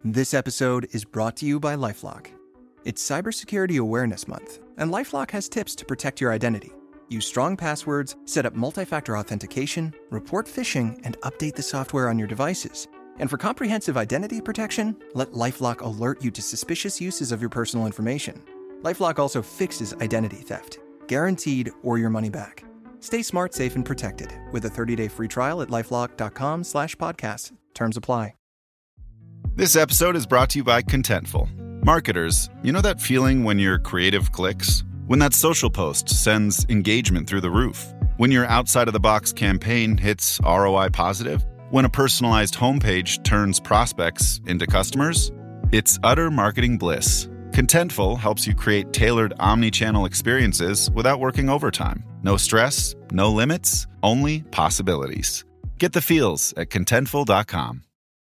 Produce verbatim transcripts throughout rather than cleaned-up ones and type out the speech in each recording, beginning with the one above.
This episode is brought to you by LifeLock. It's Cybersecurity Awareness Month, and LifeLock has tips to protect your identity. Use strong passwords, set up multi-factor authentication, report phishing, and update the software on your devices. And for comprehensive identity protection, let LifeLock alert you to suspicious uses of your personal information. LifeLock also fixes identity theft, guaranteed or your money back. Stay smart, safe, and protected with a thirty-day free trial at LifeLock.com slash podcast. Terms apply. This episode is brought to you by Contentful. Marketers, you know that feeling when your creative clicks? When that social post sends engagement through the roof? When your outside-of-the-box campaign hits R O I positive? When a personalized homepage turns prospects into customers? It's utter marketing bliss. Contentful helps you create tailored omni-channel experiences without working overtime. No stress, no limits, only possibilities. Get the feels at contentful dot com.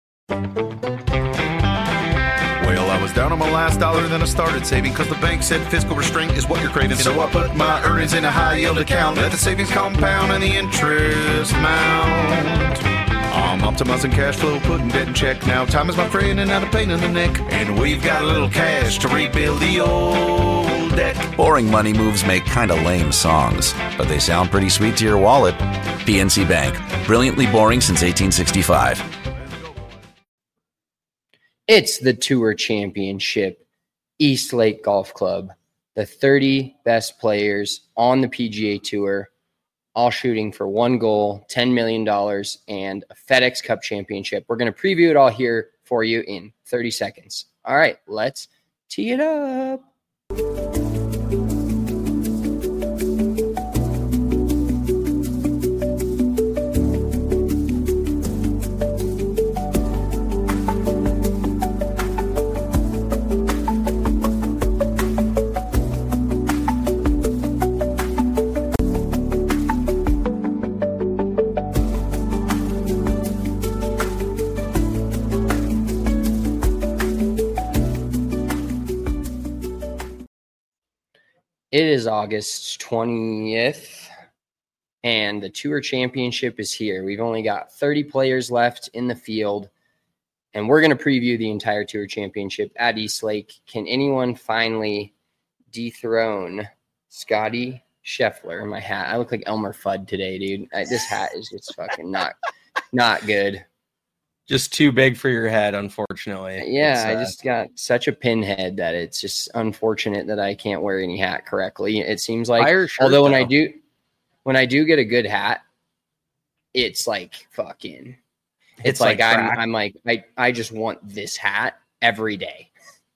Well, I was down on my last dollar, then I started saving because the bank said fiscal restraint is what you're craving. So I put my earnings in a high yield account, let the savings compound and the interest mount. I'm optimizing cash flow, putting debt in check now. Time is my friend and not a pain in the neck. And we've got a little cash to rebuild the old deck. Boring money moves make kind of lame songs, but they sound pretty sweet to your wallet. P N C Bank, brilliantly boring since eighteen sixty-five. It's the Tour Championship, East Lake Golf Club, the thirty best players on the P G A Tour, all shooting for one goal, ten million dollars, and a FedEx Cup championship. We're going to preview it all here for you in thirty seconds. All right, let's tee it up. It is August twentieth, and the Tour Championship is here. We've only got thirty players left in the field, and we're going to preview the entire Tour Championship at East Lake. Can anyone finally dethrone Scotty Scheffler in my hat? I look like Elmer Fudd today, dude. I, this hat is just fucking not, not good. Just too big for your head, unfortunately. Yeah, uh, I just got such a pinhead that it's just unfortunate that I can't wear any hat correctly. It seems like, shirt, although when though. I do, when I do get a good hat, it's like fucking. It's, It's like, like I'm, crack. I'm like I, I just want this hat every day.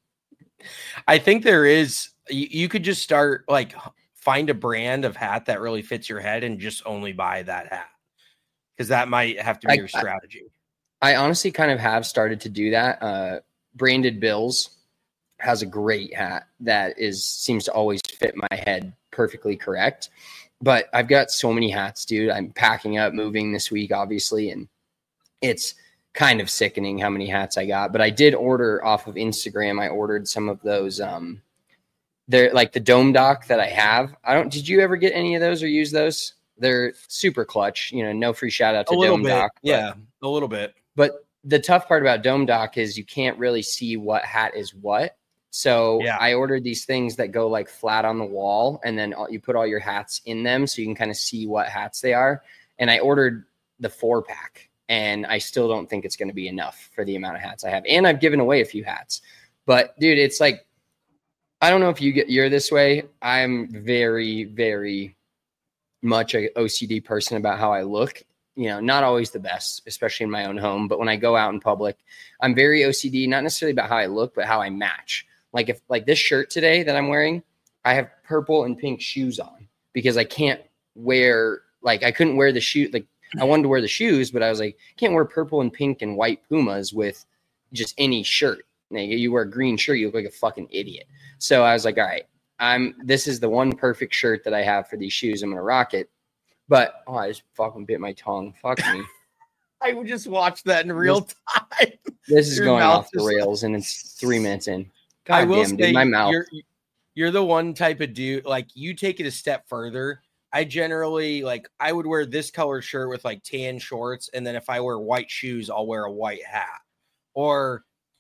I think there is, you, you could just start, like, find a brand of hat that really fits your head and just only buy that hat. Because that might have to be I- your strategy. I honestly kind of have started to do that. Uh, Branded Bills has a great hat that is seems to always fit my head perfectly correct. But I've got so many hats, dude. I'm packing up, moving this week, obviously, and it's kind of sickening how many hats I got. But I did order off of Instagram. I ordered some of those. Um, they're like the Dome Dock that I have. I don't. Did you ever get any of those or use those? They're super clutch. You know, no free shout out to A little Dome bit. Dock. but- Yeah, a little bit. But the tough part about Dome Dock is you can't really see what hat is what. So Yeah. I ordered these things that go like flat on the wall, and then all- you put all your hats in them so you can kind of see what hats they are. And I ordered the four pack, and I still don't think it's going to be enough for the amount of hats I have. And I've given away a few hats. But dude, it's like, I don't know if you get you're this way. I'm very, very much a O C D person about how I look. You know, not always the best, especially in my own home. But when I go out in public, I'm very O C D, not necessarily about how I look, but how I match. Like if like this shirt today that I'm wearing, I have purple and pink shoes on because I can't wear, like I couldn't wear the shoe. Like I wanted to wear the shoes, but I was like, can't wear purple and pink and white Pumas with just any shirt. Now, you wear a green shirt, you look like a fucking idiot. So I was like, all right, I'm, this is the one perfect shirt that I have for these shoes. I'm going to rock it. But, oh, I just fucking bit my tongue. Fuck me. I would just watch that in real time. This is Your going mouth off the is- rails, and it's three minutes in. I God will damn, say, dude, my mouth. You're, you're the one type of dude, like you take it a step further. I generally, like, I would wear this color shirt with like tan shorts. And then if I wear white shoes, I'll wear a white hat. Or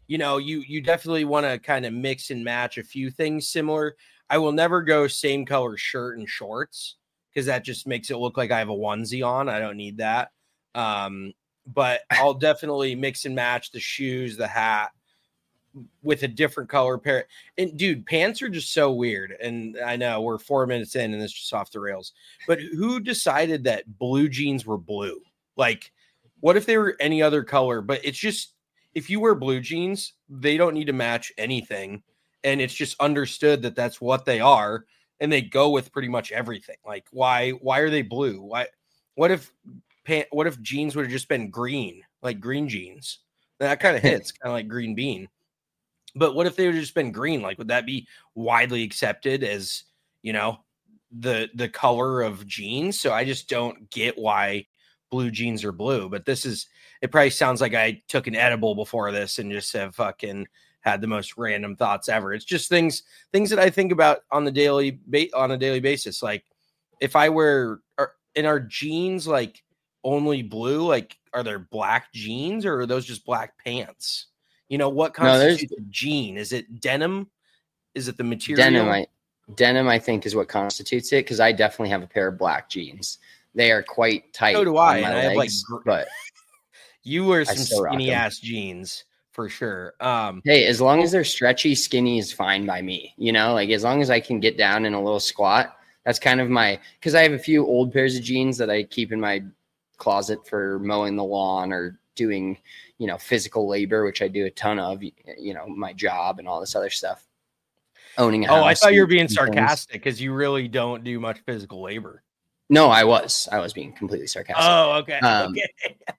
you know, you you definitely want to kind of mix and match a few things similar. I will never go same color shirt and shorts because that just makes it look like I have a onesie on. I don't need that. Um, but I'll definitely mix and match the shoes, the hat with a different color pair. And dude, pants are just so weird. And I know we're four minutes in and it's just off the rails, but who decided that blue jeans were blue? Like, what if they were any other color? But it's just, if you wear blue jeans, they don't need to match anything. And it's just understood that that's what they are. And they go with pretty much everything. Like, why, why are they blue? Why, what if, pant, what if jeans would have just been green, like green jeans? That kind of hits kind of like green bean. But what if they would have just been green? Like, would that be widely accepted as, you know, the the color of jeans? So I just don't get why blue jeans are blue. But this is, it probably sounds like I took an edible before this and just have fucking had the most random thoughts ever. It's just things things that I think about on the daily ba- on a daily basis. Like, if I wear, are, and are jeans like only blue? Like, are there black jeans or are those just black pants? You know, what constitutes no, a jean? Is it denim? Is it the material? Denim, I, denim, I think, is what constitutes it, because I definitely have a pair of black jeans. They are quite tight. So do I. On my and legs, I have like, gr- but you wear some skinny ass jeans for sure. Um, hey, as long as they're stretchy, skinny is fine by me. You know, like as long as I can get down in a little squat, that's kind of my, because I have a few old pairs of jeans that I keep in my closet for mowing the lawn or doing, you know, physical labor, which I do a ton of, you know, my job and all this other stuff. Owning a house. Oh, I thought you were being sarcastic because you really don't do much physical labor. No, I was. I was being completely sarcastic. Oh, okay. Um, okay.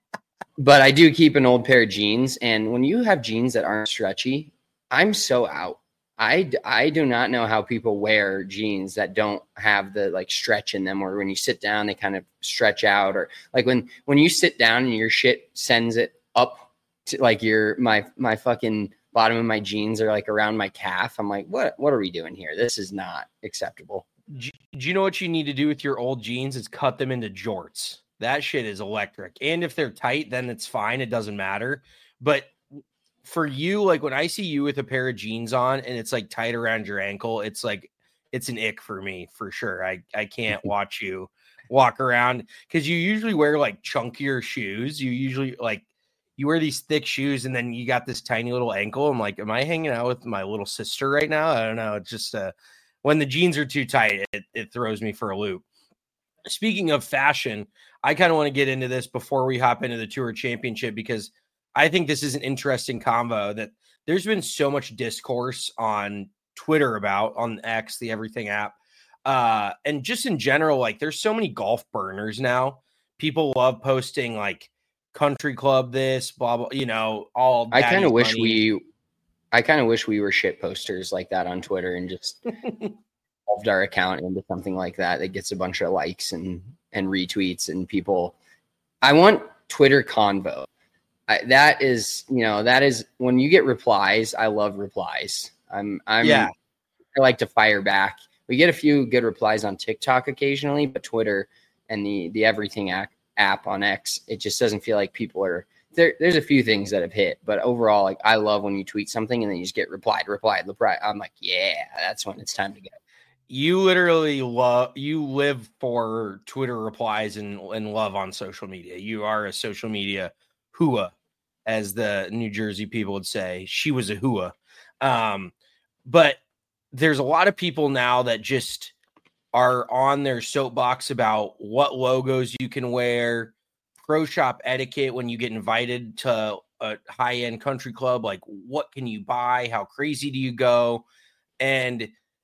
But I do keep an old pair of jeans. And when you have jeans that aren't stretchy, I'm so out. I, I do not know how people wear jeans that don't have the like stretch in them, or when you sit down, they kind of stretch out, or like when, when you sit down and your shit sends it up to like your, my, my fucking bottom of my jeans are like around my calf. I'm like, what, what are we doing here? This is not acceptable. Do you know what you need to do with your old jeans? Is cut them into jorts. That shit is electric. And if they're tight, then it's fine. It doesn't matter. But for you, like when I see you with a pair of jeans on and it's like tight around your ankle, it's like, it's an ick for me for sure. I, I can't watch you walk around because you usually wear like chunkier shoes. You usually like, you wear these thick shoes and then you got this tiny little ankle. I'm like, am I hanging out with my little sister right now? I don't know. It's just uh, when the jeans are too tight, it, it throws me for a loop. Speaking of fashion, I kind of want to get into this before we hop into the Tour Championship, because I think this is an interesting convo that there's been so much discourse on Twitter about, on X, the Everything app. Uh, and just in general, like there's so many golf burners now. People love posting like country club, this, blah, blah, you know, all. I kind of wish we, I kind of wish we were shit posters like that on Twitter and just evolved our account into something like that that gets a bunch of likes and, and retweets and people. I want Twitter convo. I, that is, you know, that is when you get replies. I love replies. I'm, I'm, yeah. I like to fire back. We get a few good replies on TikTok occasionally, but Twitter and the, the Everything app, app on X, it just doesn't feel like people are there. There's a few things that have hit, but overall, like I love when you tweet something and then you just get replied, replied, replied. I'm like, yeah, that's when it's time to go. You literally love, you live for Twitter replies and, and love on social media. You are a social media hua, as the New Jersey people would say. She was a hua. Um, but there's a lot of people now that just are on their soapbox about what logos you can wear, pro shop etiquette when you get invited to a high-end country club. Like, what can you buy? How crazy do you go? And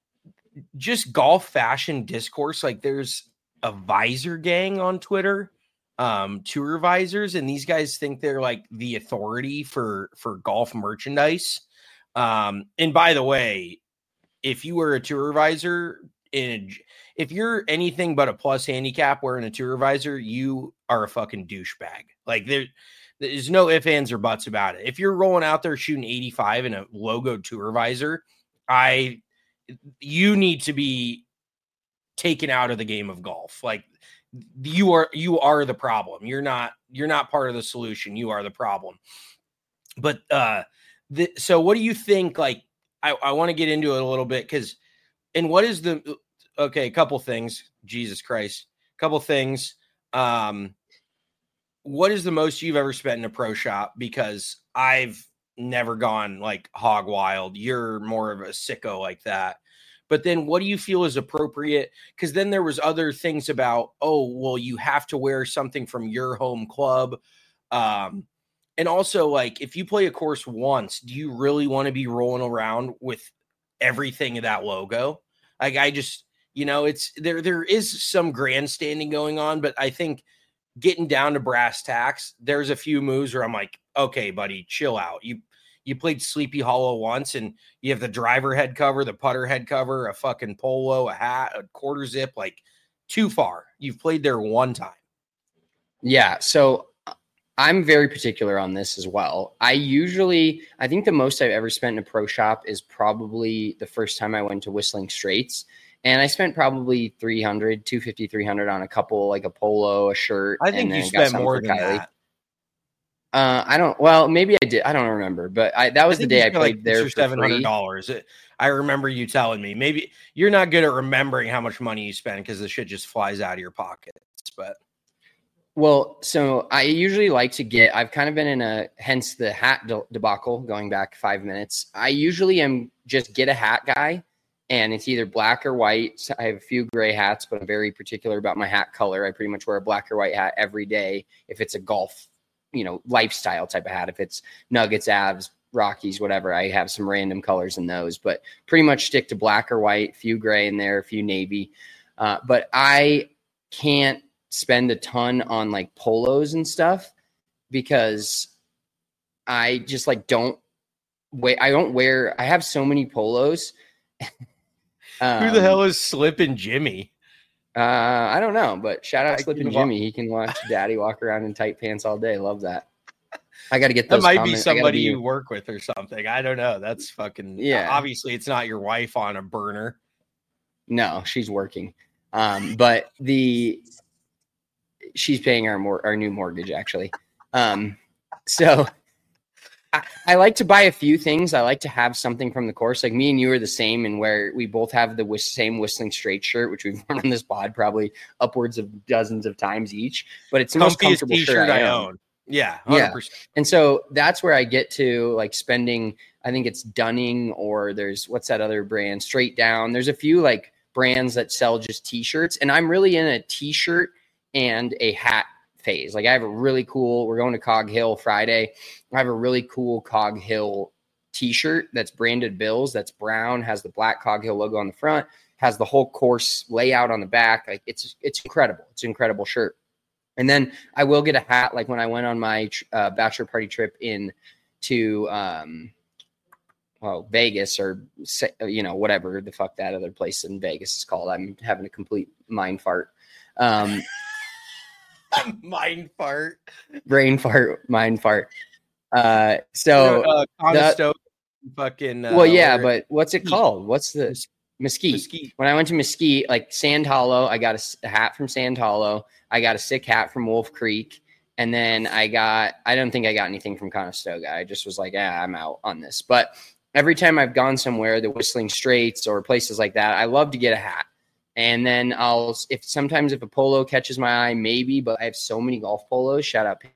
just golf fashion discourse. Like, there's a visor gang on Twitter, um, tour visors, and these guys think they're like the authority for, for golf merchandise. Um, and by the way, if you were a tour visor in a, if you're anything but a plus handicap wearing a tour visor, you are a fucking douchebag. Like there, there's no ifs, ands, or buts about it. If you're rolling out there shooting eighty-five in a logo tour visor, I, you need to be taken out of the game of golf. Like you are, you are the problem. You're not, you're not part of the solution. You are the problem. But, uh, the, so what do you think? Like, I, I want to get into it a little bit because, and what is the, okay, a couple things, Jesus Christ, a couple things. Um, what is the most you've ever spent in a pro shop? Because I've never gone like hog wild. You're more of a sicko like that. But then what do you feel is appropriate? Because then there was other things about, oh, well, you have to wear something from your home club. Um, and also, like, if you play a course once, do you really want to be rolling around with everything of that logo? Like, I just, you know, it's there, there is some grandstanding going on, but I think getting down to brass tacks, there's a few moves where I'm like, okay, buddy, chill out. You you played Sleepy Hollow once, and you have the driver head cover, the putter head cover, a fucking polo, a hat, a quarter zip, like too far. You've played there one time. Yeah, so I'm very particular on this as well. I usually, I think the most I've ever spent in a pro shop is probably the first time I went to Whistling Straits. And I spent probably three hundred, two fifty, three hundred on a couple, like a polo, a shirt. I think and you then got spent more than Kylie. that. Uh, I don't, well, maybe I did. I don't remember, but I, that was I the think you day I spent played like there for for seven hundred free. dollars. I remember you telling me. Maybe you're not good at remembering how much money you spend because the shit just flies out of your pockets. But Well, so I usually like to get, I've kind of been in a, hence the hat de- debacle going back five minutes. I usually am just get a hat guy, and it's either black or white. So I have a few gray hats, but I'm very particular about my hat color. I pretty much wear a black or white hat every day. If it's a golf, you know, lifestyle type of hat, if it's Nuggets, Avs, Rockies, whatever, I have some random colors in those, but pretty much stick to black or white, few gray in there, a few navy. Uh, but I can't spend a ton on like polos and stuff because I just like don't wait. I don't wear, I have so many polos. um, who the hell is Slippin' Jimmy? Uh, I don't know, but shout out I Slippin' can Jimmy. He can watch Daddy walk around in tight pants all day. Love that. I got to get That those. might comment- be somebody be, you work with or something. I don't know. That's fucking, yeah. Obviously, it's not your wife on a burner. No, she's working. Um, but the, she's paying our mor- our new mortgage actually. Um, so I, I like to buy a few things. I like to have something from the course. Like me and you are the same, and where we both have the whist- same Whistling Straight shirt, which we've worn on this pod probably upwards of dozens of times each. But it's the most comfortable shirt I own. own. Yeah, one hundred percent. Yeah. And so that's where I get to like spending. I think it's Dunning, or there's what's that other brand? Straight Down. There's a few like brands that sell just t-shirts, and I'm really in a t-shirt and a hat phase. Like I have a really cool, we're going to Cog Hill Friday. I have a really cool Cog Hill t-shirt that's branded Bills. That's brown, has the black Cog Hill logo on the front, has the whole course layout on the back. Like it's, it's incredible. It's an incredible shirt. And then I will get a hat. Like when I went on my uh, bachelor party trip in to, um, well, Vegas or, you know, whatever the fuck that other place in Vegas is called. I'm having a complete mind fart. Um, mind fart, brain fart, mind fart. Uh, so uh, Conestoga, fucking. Uh, well, yeah, but what's it called? What's the Mesquite. Mesquite? When I went to Mesquite, like Sand Hollow, I got a, a hat from Sand Hollow. I got a sick hat from Wolf Creek, and then I got. I don't think I got anything from Conestoga. I just was like, yeah, I'm out on this. But every time I've gone somewhere, the Whistling Straits or places like that, I love to get a hat. And then I'll, if sometimes if a polo catches my eye, maybe, but I have so many golf polos. Shout out.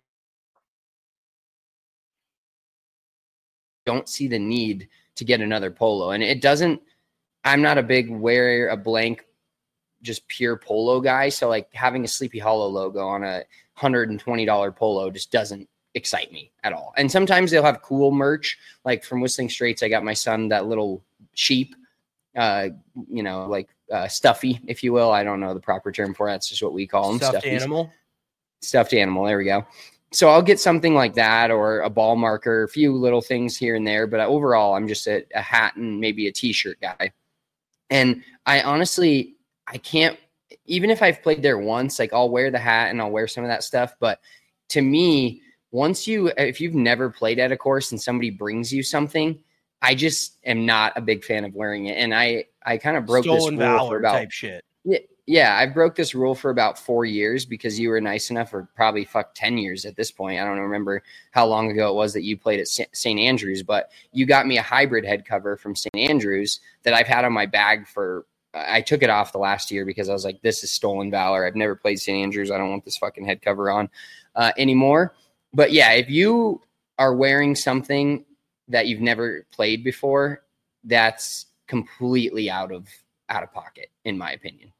Don't see the need to get another polo. And it doesn't, I'm not a big wear a blank, just pure polo guy. So like having a Sleepy Hollow logo on a one hundred twenty dollars polo just doesn't excite me at all. And sometimes they'll have cool merch. Like from Whistling Straits, I got my son that little sheep, uh, you know, like, Uh, stuffy, if you will. I don't know the proper term for it. That's just what we call them. Stuffed Stuffies. animal. Stuffed animal. There we go. So I'll get something like that, or a ball marker, a few little things here and there. But overall, I'm just a, a hat and maybe a t-shirt guy. And I honestly, I can't, even if I've played there once, like I'll wear the hat and I'll wear some of that stuff. But to me, once you, if you've never played at a course and somebody brings you something, I just am not a big fan of wearing it. And I, I kind of broke Stolen this rule valor for about type shit. Yeah, Yeah, I broke this rule for about four years because you were nice enough, or probably fuck ten years at this point. I don't remember how long ago it was that you played at Saint Andrews, but you got me a hybrid head cover from Saint Andrews that I've had on my bag for, I took it off the last year because I was like, this is stolen valor. I've never played Saint Andrews. I don't want this fucking head cover on uh, anymore. But yeah, if you are wearing something that you've never played before, that's completely out of out of pocket, in my opinion.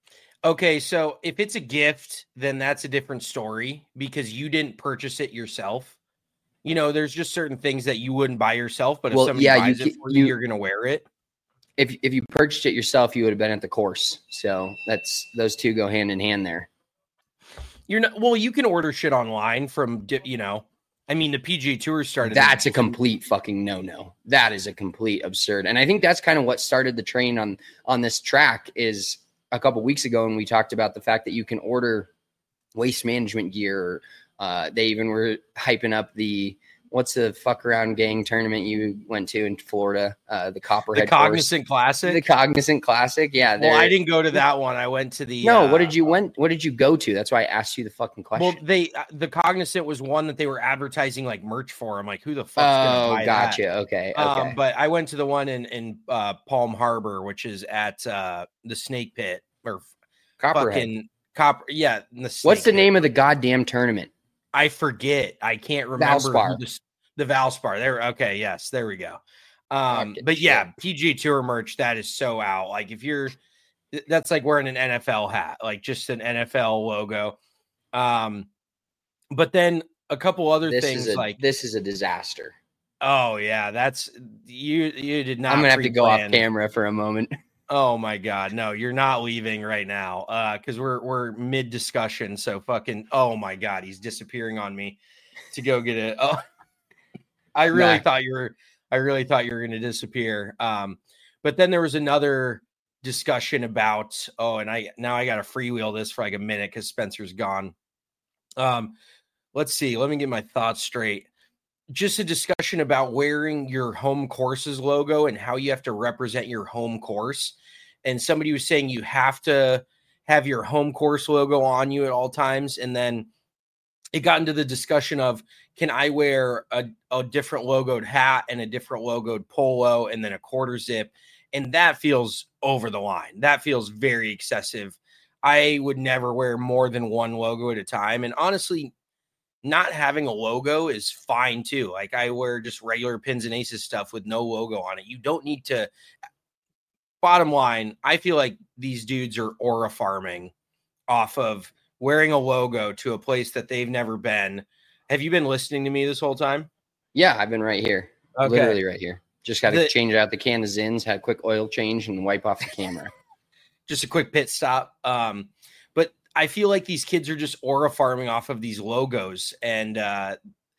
Okay, so if it's a gift, then that's a different story because you didn't purchase it yourself. You know, there's just certain things that you wouldn't buy yourself, but if well, somebody yeah, buys you, it for you, you, you're going to wear it. If if you purchased it yourself, you would have been at the course. So that's those two go hand in hand there. You're not well. You can order shit online from, you know. I mean, the P G A Tour started. That's a complete fucking no-no. That is a complete absurd. And I think that's kind of what started the train on on this track is a couple weeks ago when we talked about the fact that you can order waste management gear. Uh, they even were hyping up the what's the fuck around gang tournament you went to in Florida? Uh, the Copperhead, the Cognizant course. Classic. The Cognizant Classic. Yeah. Well, I didn't go to that one. I went to the. No. Uh, what did you went? What did you go to? That's why I asked you the fucking question. Well, they uh, the Cognizant was one that they were advertising like merch for. I'm like, who the fuck's oh, gonna buy gotcha. that? Okay. Okay. Um, but I went to the one in in uh, Palm Harbor, which is at uh, the Snake Pit or Copperhead. fucking Copper. Yeah. The What's the Pit. name of the goddamn tournament? I forget. I can't remember. Valspar. Who the, the Valspar. There. Okay. Yes. There we go. Um, Okay, but yeah, shit. P G A Tour merch, that is so out. Like if you're, that's like wearing an N F L hat, like just an N F L logo. Um, but then a couple other This things is a, like, this is a disaster. oh yeah, that's you, you did not. I'm going to have to go off pre-plan. camera for a moment. Oh my God. No, you're not leaving right now. Uh, cause we're, we're mid discussion. So fucking, oh my God, he's disappearing on me to go get it. Oh, I really Nah. thought you were, I really thought you were going to disappear. Um, but then there was another discussion about, oh, and I, now I got to freewheel this for like a minute cause Spencer's gone. Um, let's see, let me get my thoughts straight. Just a discussion about wearing your home course's logo and how you have to represent your home course. And somebody was saying you have to have your home course logo on you at all times. And then it got into the discussion of, can I wear a, a different logoed hat and a different logoed polo and then a quarter zip? And that feels over the line. That feels very excessive. I would never wear more than one logo at a time. And honestly, not having a logo is fine too. Like I wear just regular Pins and Aces stuff with no logo on it. You don't need to. Bottom line, I feel like these dudes are aura farming off of wearing a logo to a place that they've never been. Have you been listening to me this whole time? Yeah, I've been right here. Okay. Literally right here. Just got to The- change out the can of Zins, had a quick oil change, and wipe off the camera. Just a quick pit stop. Um, but I feel like these kids are just aura farming off of these logos. And uh,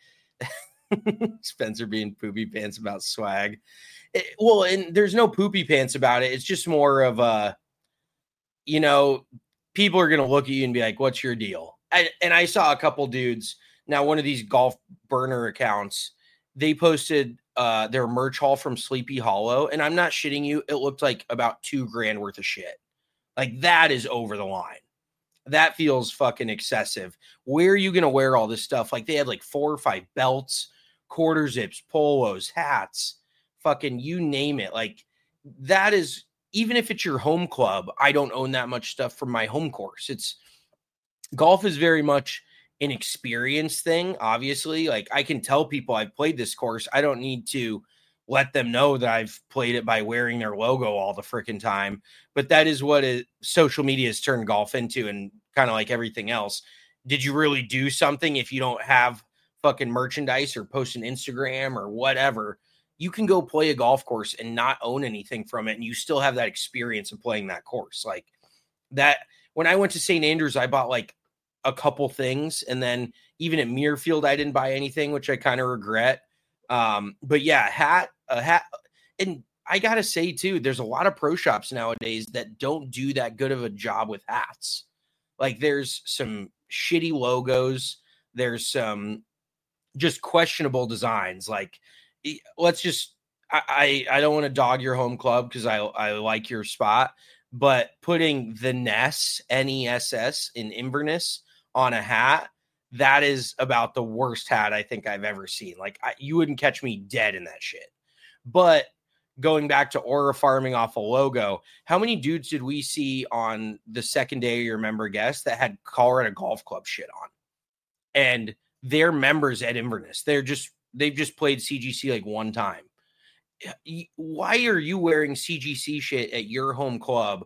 Spencer being poopy pants about swag. It, well, and there's no poopy pants about it. It's just more of a, you know, people are going to look at you and be like, what's your deal? I, and I saw a couple dudes. Now, one of these golf burner accounts, they posted uh, their merch haul from Sleepy Hollow. And I'm not shitting you. It looked like about two grand worth of shit. Like that is over the line. That feels fucking excessive. Where are you going to wear all this stuff? Like they had like four or five belts, quarter zips, polos, hats, fucking you name it. Like that is, even if it's your home club, I don't own that much stuff from my home course. It's golf is very much an experience thing. Obviously, like I can tell people I've played this course. I don't need to let them know that I've played it by wearing their logo all the freaking time. But that is what it, social media has turned golf into, and kind of like everything else. Did you really do something if you don't have fucking merchandise or post an Instagram or whatever? You can go play a golf course and not own anything from it, and you still have that experience of playing that course. Like that, when I went to Saint Andrews, I bought like a couple things, and then even at Muirfield, I didn't buy anything, which I kind of regret. Um, but yeah, hat, a hat, and I gotta say too, there's a lot of pro shops nowadays that don't do that good of a job with hats. Like there's some shitty logos, there's some just questionable designs. Like let's just, I, I, I don't want to dog your home club because I, I like your spot, but putting the Ness, N E S S, in Inverness on a hat, that is about the worst hat I think I've ever seen. Like, I, you wouldn't catch me dead in that shit. But going back to Aura farming off a logo, how many dudes did we see on the second day of your member guest that had Colorado Golf Club shit on? And they're members at Inverness. They're just, they've just played C G C like one time. Why are you wearing C G C shit at your home club?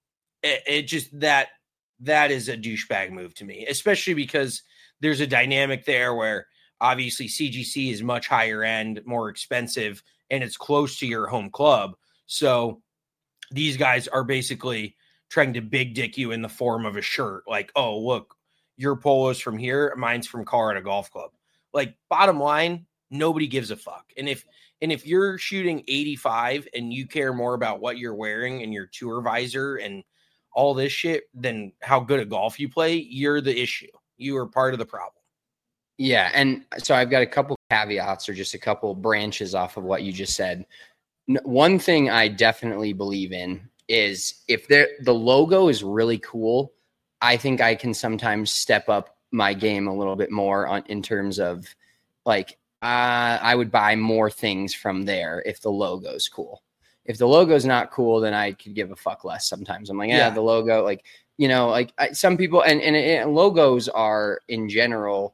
It, it just, that, that is a douchebag move to me, especially because there's a dynamic there where obviously C G C is much higher end, more expensive, and it's close to your home club. So these guys are basically trying to big dick you in the form of a shirt. Like, oh, look, your polo's from here, mine's from Colorado Golf Club. Like, bottom line, nobody gives a fuck. And if and if you're shooting eighty-five and you care more about what you're wearing and your tour visor and all this shit than how good at golf you play, you're the issue. You are part of the problem. Yeah, and so I've got a couple caveats or just a couple branches off of what you just said. One thing I definitely believe in is if the logo is really cool, I think I can sometimes step up my game a little bit more on in terms of like uh, I would buy more things from there if the logo's cool. If the logo's not cool, then I could give a fuck less sometimes. I'm like, yeah, yeah. the logo, like, you know, like I, some people and, and, and logos are in general,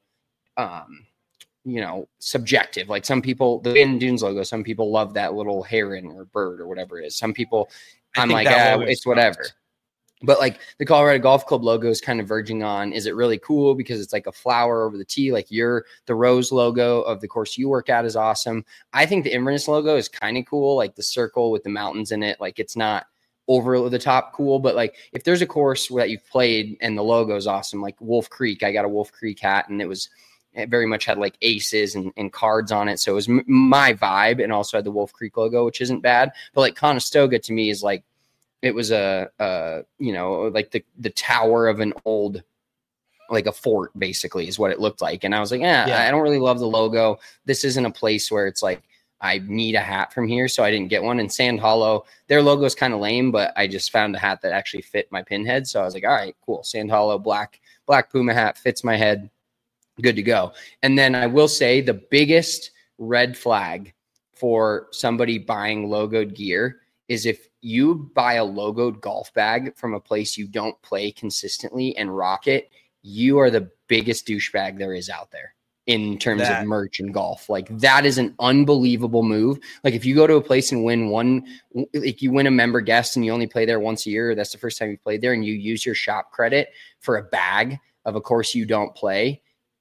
um, you know, subjective. Like some people, the Bandon Dunes logo, some people love that little heron or bird or whatever it is. Some people, I I'm like, ah, it's whatever. Sucks. But like the Colorado Golf Club logo is kind of verging on, is it really cool because it's like a flower over the tee? Like your, the rose logo of the course you work at is awesome. I think the Inverness logo is kind of cool. Like the circle with the mountains in it. Like it's not over the top cool, but like if there's a course that you've played and the logo is awesome, like Wolf Creek, I got a Wolf Creek hat and it was, it very much had like aces and, and cards on it. So it was m- my vibe and also had the Wolf Creek logo, which isn't bad. But like Conestoga to me is like, it was a, a, you know, like the, the tower of an old, like a fort basically is what it looked like. And I was like, eh, yeah, I don't really love the logo. This isn't a place where it's like, I need a hat from here. So I didn't get one. And Sand Hollow, their logo is kind of lame, but I just found a hat that actually fit my pinhead. So I was like, all right, cool. Sand Hollow, black, black Puma hat fits my head. Good to go. And then I will say the biggest red flag for somebody buying logoed gear is if you buy a logoed golf bag from a place you don't play consistently and rock it, you are the biggest douchebag there is out there in terms that. of merch and golf. Like that is an unbelievable move. Like if you go to a place and win one, like you win a member guest and you only play there once a year, that's the first time you played there, and you use your shop credit for a bag of a course you don't play,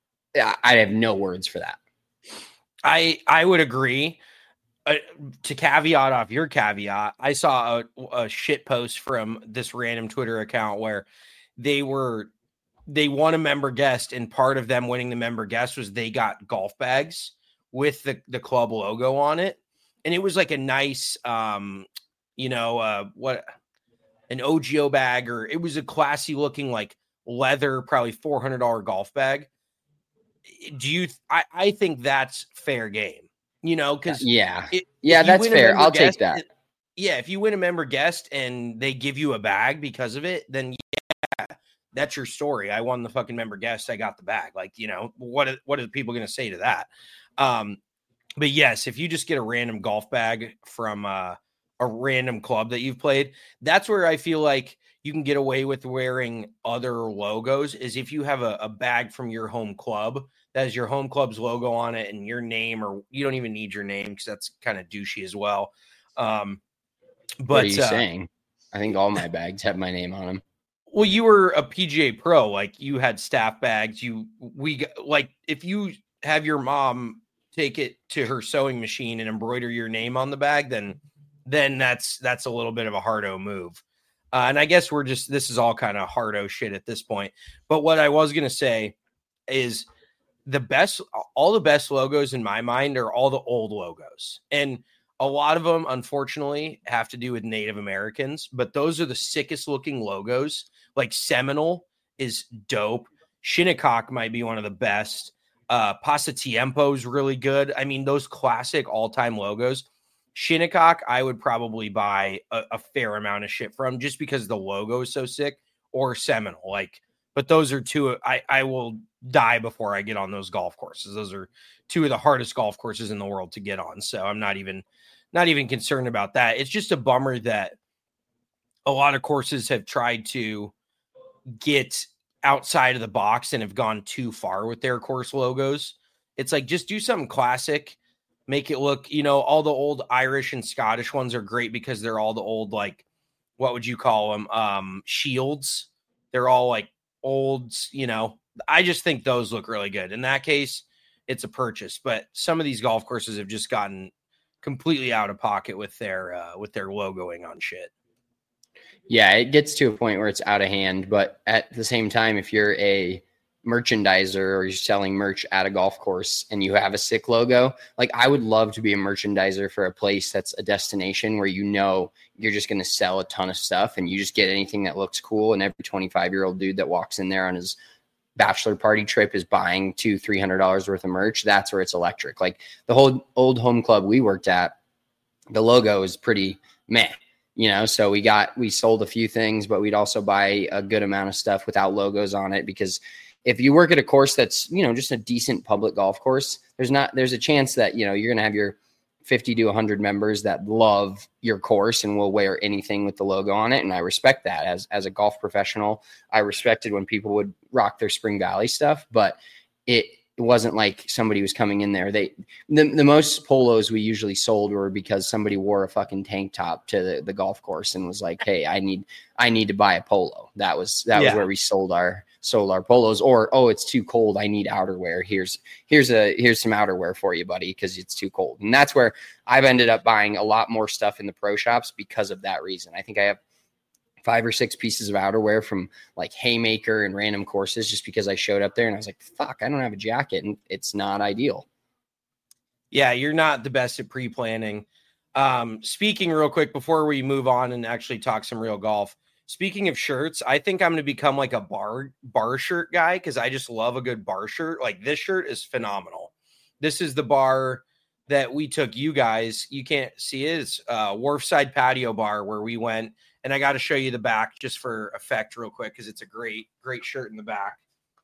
I have no words for that. I I would agree. Uh, to caveat off your caveat, I saw a, a shit post from this random Twitter account where they were they won a member guest, and part of them winning the member guest was they got golf bags with the the club logo on it, and it was like a nice, um, you know, uh, what an O G O bag, or it was a classy looking like leather, probably four hundred dollars golf bag. Do you? I, I think that's fair game, you know, because yeah, it, yeah, that's fair. I'll guest, take that. It, yeah, if you win a member guest and they give you a bag because of it, then yeah, that's your story. I won the fucking member guest. I got the bag. Like, you know, what are, what are people going to say to that? Um, but yes, if you just get a random golf bag from uh, a random club that you've played, that's where I feel like you can get away with wearing other logos, is if you have a, a bag from your home club that has your home club's logo on it and your name, or you don't even need your name because that's kind of douchey as well. Um, but what are you uh, saying? I think all my bags have my name on them. Well, you were a P G A pro, like you had staff bags. You, we like, if you have your mom take it to her sewing machine and embroider your name on the bag, then, then that's, that's a little bit of a hardo move. Uh, and I guess we're just, this is all kind of hardo shit at this point. But what I was going to say is the best, all the best logos in my mind are all the old logos. And a lot of them, unfortunately, have to do with Native Americans, but those are the sickest looking logos. Like Seminole is dope. Shinnecock might be one of the best. Uh, Pasatiempo is really good. I mean, those classic all-time logos. Shinnecock, I would probably buy a, a fair amount of shit from just because the logo is so sick, or Seminole. Like, but those are two I, I will die before I get on those golf courses. Those are two of the hardest golf courses in the world to get on. So I'm not even not even concerned about that. It's just a bummer that a lot of courses have tried to get outside of the box and have gone too far with their course logos. It's like, just do something classic. Make it look, you know, all the old Irish and Scottish ones are great because they're all the old, like, what would you call them? Um, shields. They're all like old, you know, I just think those look really good. In that case, it's a purchase, but some of these golf courses have just gotten completely out of pocket with their, uh, with their logoing on shit. Yeah, it gets to a point where it's out of hand, but at the same time, if you're a merchandiser or you're selling merch at a golf course and you have a sick logo, like, I would love to be a merchandiser for a place that's a destination where, you know, you're just going to sell a ton of stuff and you just get anything that looks cool. And every twenty-five year old dude that walks in there on his bachelor party trip is buying two, three hundred dollars worth of merch. That's where it's electric. Like, the whole old home club we worked at, the logo is pretty meh. You know, so we got, we sold a few things, but we'd also buy a good amount of stuff without logos on it, because if you work at a course that's, you know, just a decent public golf course, there's not, there's a chance that, you know, you're going to have your fifty to one hundred members that love your course and will wear anything with the logo on it. And I respect that as, as a golf professional. I respected when people would rock their Spring Valley stuff, but it, it wasn't like somebody was coming in there. They, the, the most polos we usually sold were because somebody wore a fucking tank top to the, the golf course and was like, hey, I need, I need to buy a polo. That was, that Yeah. was where we sold our, sold our polos. Or, oh, it's too cold, I need outerwear. Here's, here's a, here's some outerwear for you, buddy, because it's too cold. And that's where I've ended up buying a lot more stuff in the pro shops because of that reason. I think I have five or six pieces of outerwear from like Haymaker and random courses just because I showed up there and I was like, fuck, I don't have a jacket, and it's not ideal. Yeah, you're not the best at pre-planning. Um, speaking real quick before we move on and actually talk some real golf, speaking of shirts, I think I'm going to become like a bar bar shirt guy because I just love a good bar shirt. Like, this shirt is phenomenal. This is the bar that we took you guys. You can't see it. It's uh, Wharfside Patio Bar where we went. And I got to show you the back just for effect real quick because it's a great, great shirt in the back.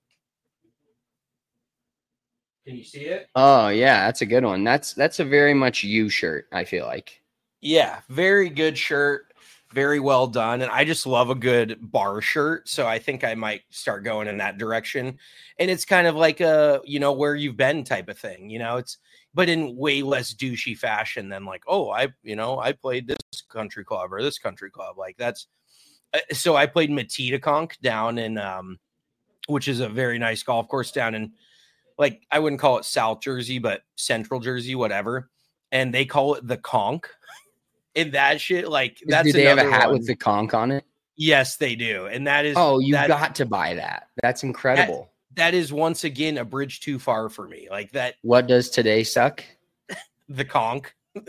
Can you see it? Oh yeah, that's a good one. That's that's a very much you shirt, I feel like. Yeah, very good shirt. Very well done. And I just love a good bar shirt. So I think I might start going in that direction. And it's kind of like a, you know, where you've been type of thing. You know, it's, but in way less douchey fashion than like, oh, I, you know, I played this country club or this country club. Like, that's, uh, so I played Matitaconk down in, um, which is a very nice golf course down in, like, I wouldn't call it South Jersey, but Central Jersey, whatever. And they call it the Conch. And that shit, like, that's, do they have a hat one. with the conch on it? Yes, they do. And that is, oh, you that, got to buy that. That's incredible. That, that is once again a bridge too far for me. Like that. What does today suck? The conch.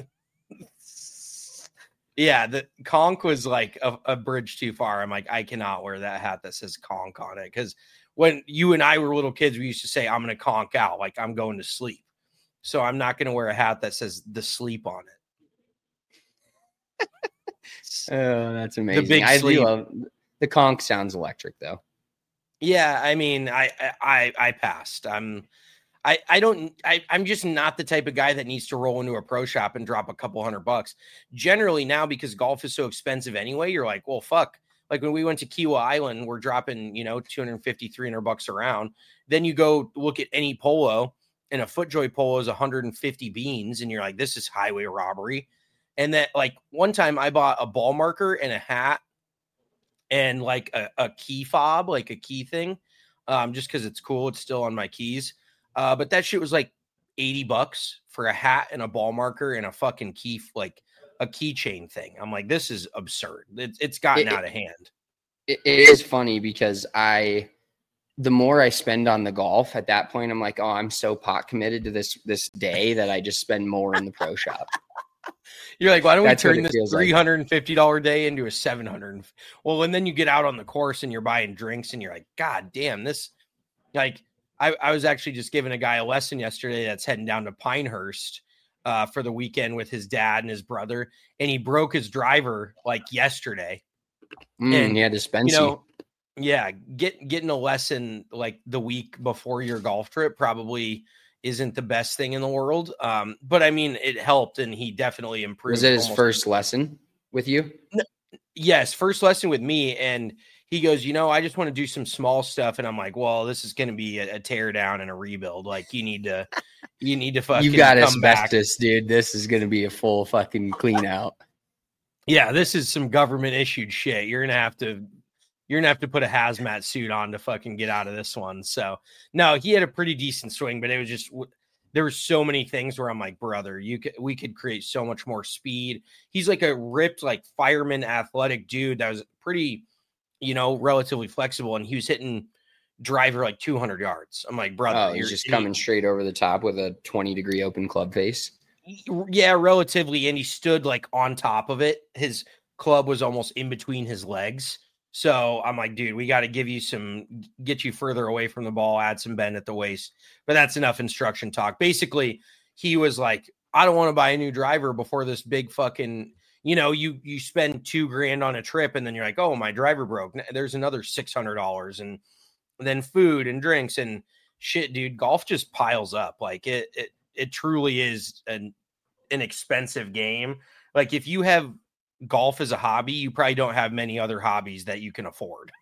Yeah, the conch was like a, a bridge too far. I'm like, I cannot wear that hat that says conch on it. Because when you and I were little kids, we used to say, I'm going to conch out. Like, I'm going to sleep. So I'm not going to wear a hat that says the sleep on it. Oh, that's amazing. The big I sleep. do love the conch. Sounds electric though. Yeah, I mean, I I I passed. I'm I I don't I I'm just not the type of guy that needs to roll into a pro shop and drop a couple hundred bucks. Generally now, because golf is so expensive anyway, you're like, well, fuck. Like when we went to Kiawah Island, we're dropping, you know, two fifty, three hundred bucks around. Then you go look at any polo, and a FootJoy polo is one hundred fifty beans, and you're like, this is highway robbery. And that, like, one time I bought a ball marker and a hat and like a, a key fob, like a key thing, um, just because it's cool. It's still on my keys. Uh, but that shit was like eighty bucks for a hat and a ball marker and a fucking key, like a keychain thing. I'm like, this is absurd. It, it's gotten it, out of hand. It, it is funny because I, the more I spend on the golf at that point, I'm like, oh, I'm so pot committed to this, this day that I just spend more in the pro shop. You're like, why don't That's we turn this three hundred fifty dollars like. day into a seven hundred? Well, and then you get out on the course and you're buying drinks and you're like, God damn, this, like, I, I was actually just giving a guy a lesson yesterday that's heading down to Pinehurst uh, for the weekend with his dad and his brother, and he broke his driver like yesterday. Mm, and he had to spend you know, yeah, get getting a lesson like the week before your golf trip probably isn't the best thing in the world. Um, but I mean, it helped, and he definitely improved. Was it his almost first lesson with you? No, yes, first lesson with me, and he goes, you know, I just want to do some small stuff, and I'm like, well, this is going to be a, a tear down and a rebuild. Like, you need to, you need to fucking. You got come asbestos, back. dude. This is going to be a full fucking clean out. Yeah, this is some government issued shit. You're gonna have to, you're gonna have to put a hazmat suit on to fucking get out of this one. So no, he had a pretty decent swing, but it was just there were so many things where I'm like, brother, you could we could create so much more speed. He's like a ripped, like fireman, athletic dude that was pretty, you know, relatively flexible, and he was hitting driver like two hundred yards. I'm like, brother, Oh, you're he's just coming straight over the top with a twenty degree open club face. Yeah, relatively, and he stood like on top of it. His club was almost in between his legs. So I'm like, dude, we got to give you some, get you further away from the ball, add some bend at the waist. But that's enough instruction talk. Basically, he was like, I don't want to buy a new driver before this big fucking, you know, you you spend two grand on a trip, and then you're like, oh, my driver broke. There's another six hundred dollars, and then food and drinks and shit, dude. Golf just piles up. Like it, it, it truly is an an expensive game. Like if you have golf as a hobby, you probably don't have many other hobbies that you can afford.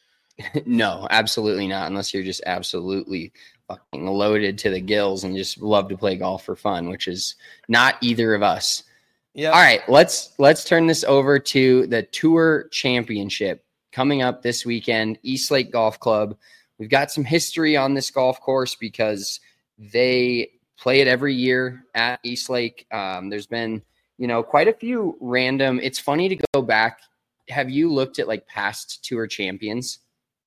No, absolutely not. Unless you're just absolutely fucking loaded to the gills and just love to play golf for fun, which is not either of us. Yeah. All right, let's let's turn this over to the Tour Championship coming up this weekend, East Lake Golf Club. We've got some history on this golf course because they play it every year at East Lake. Um, there's been, you know, quite a few random. It's funny to go back. Have you looked at like past Tour champions?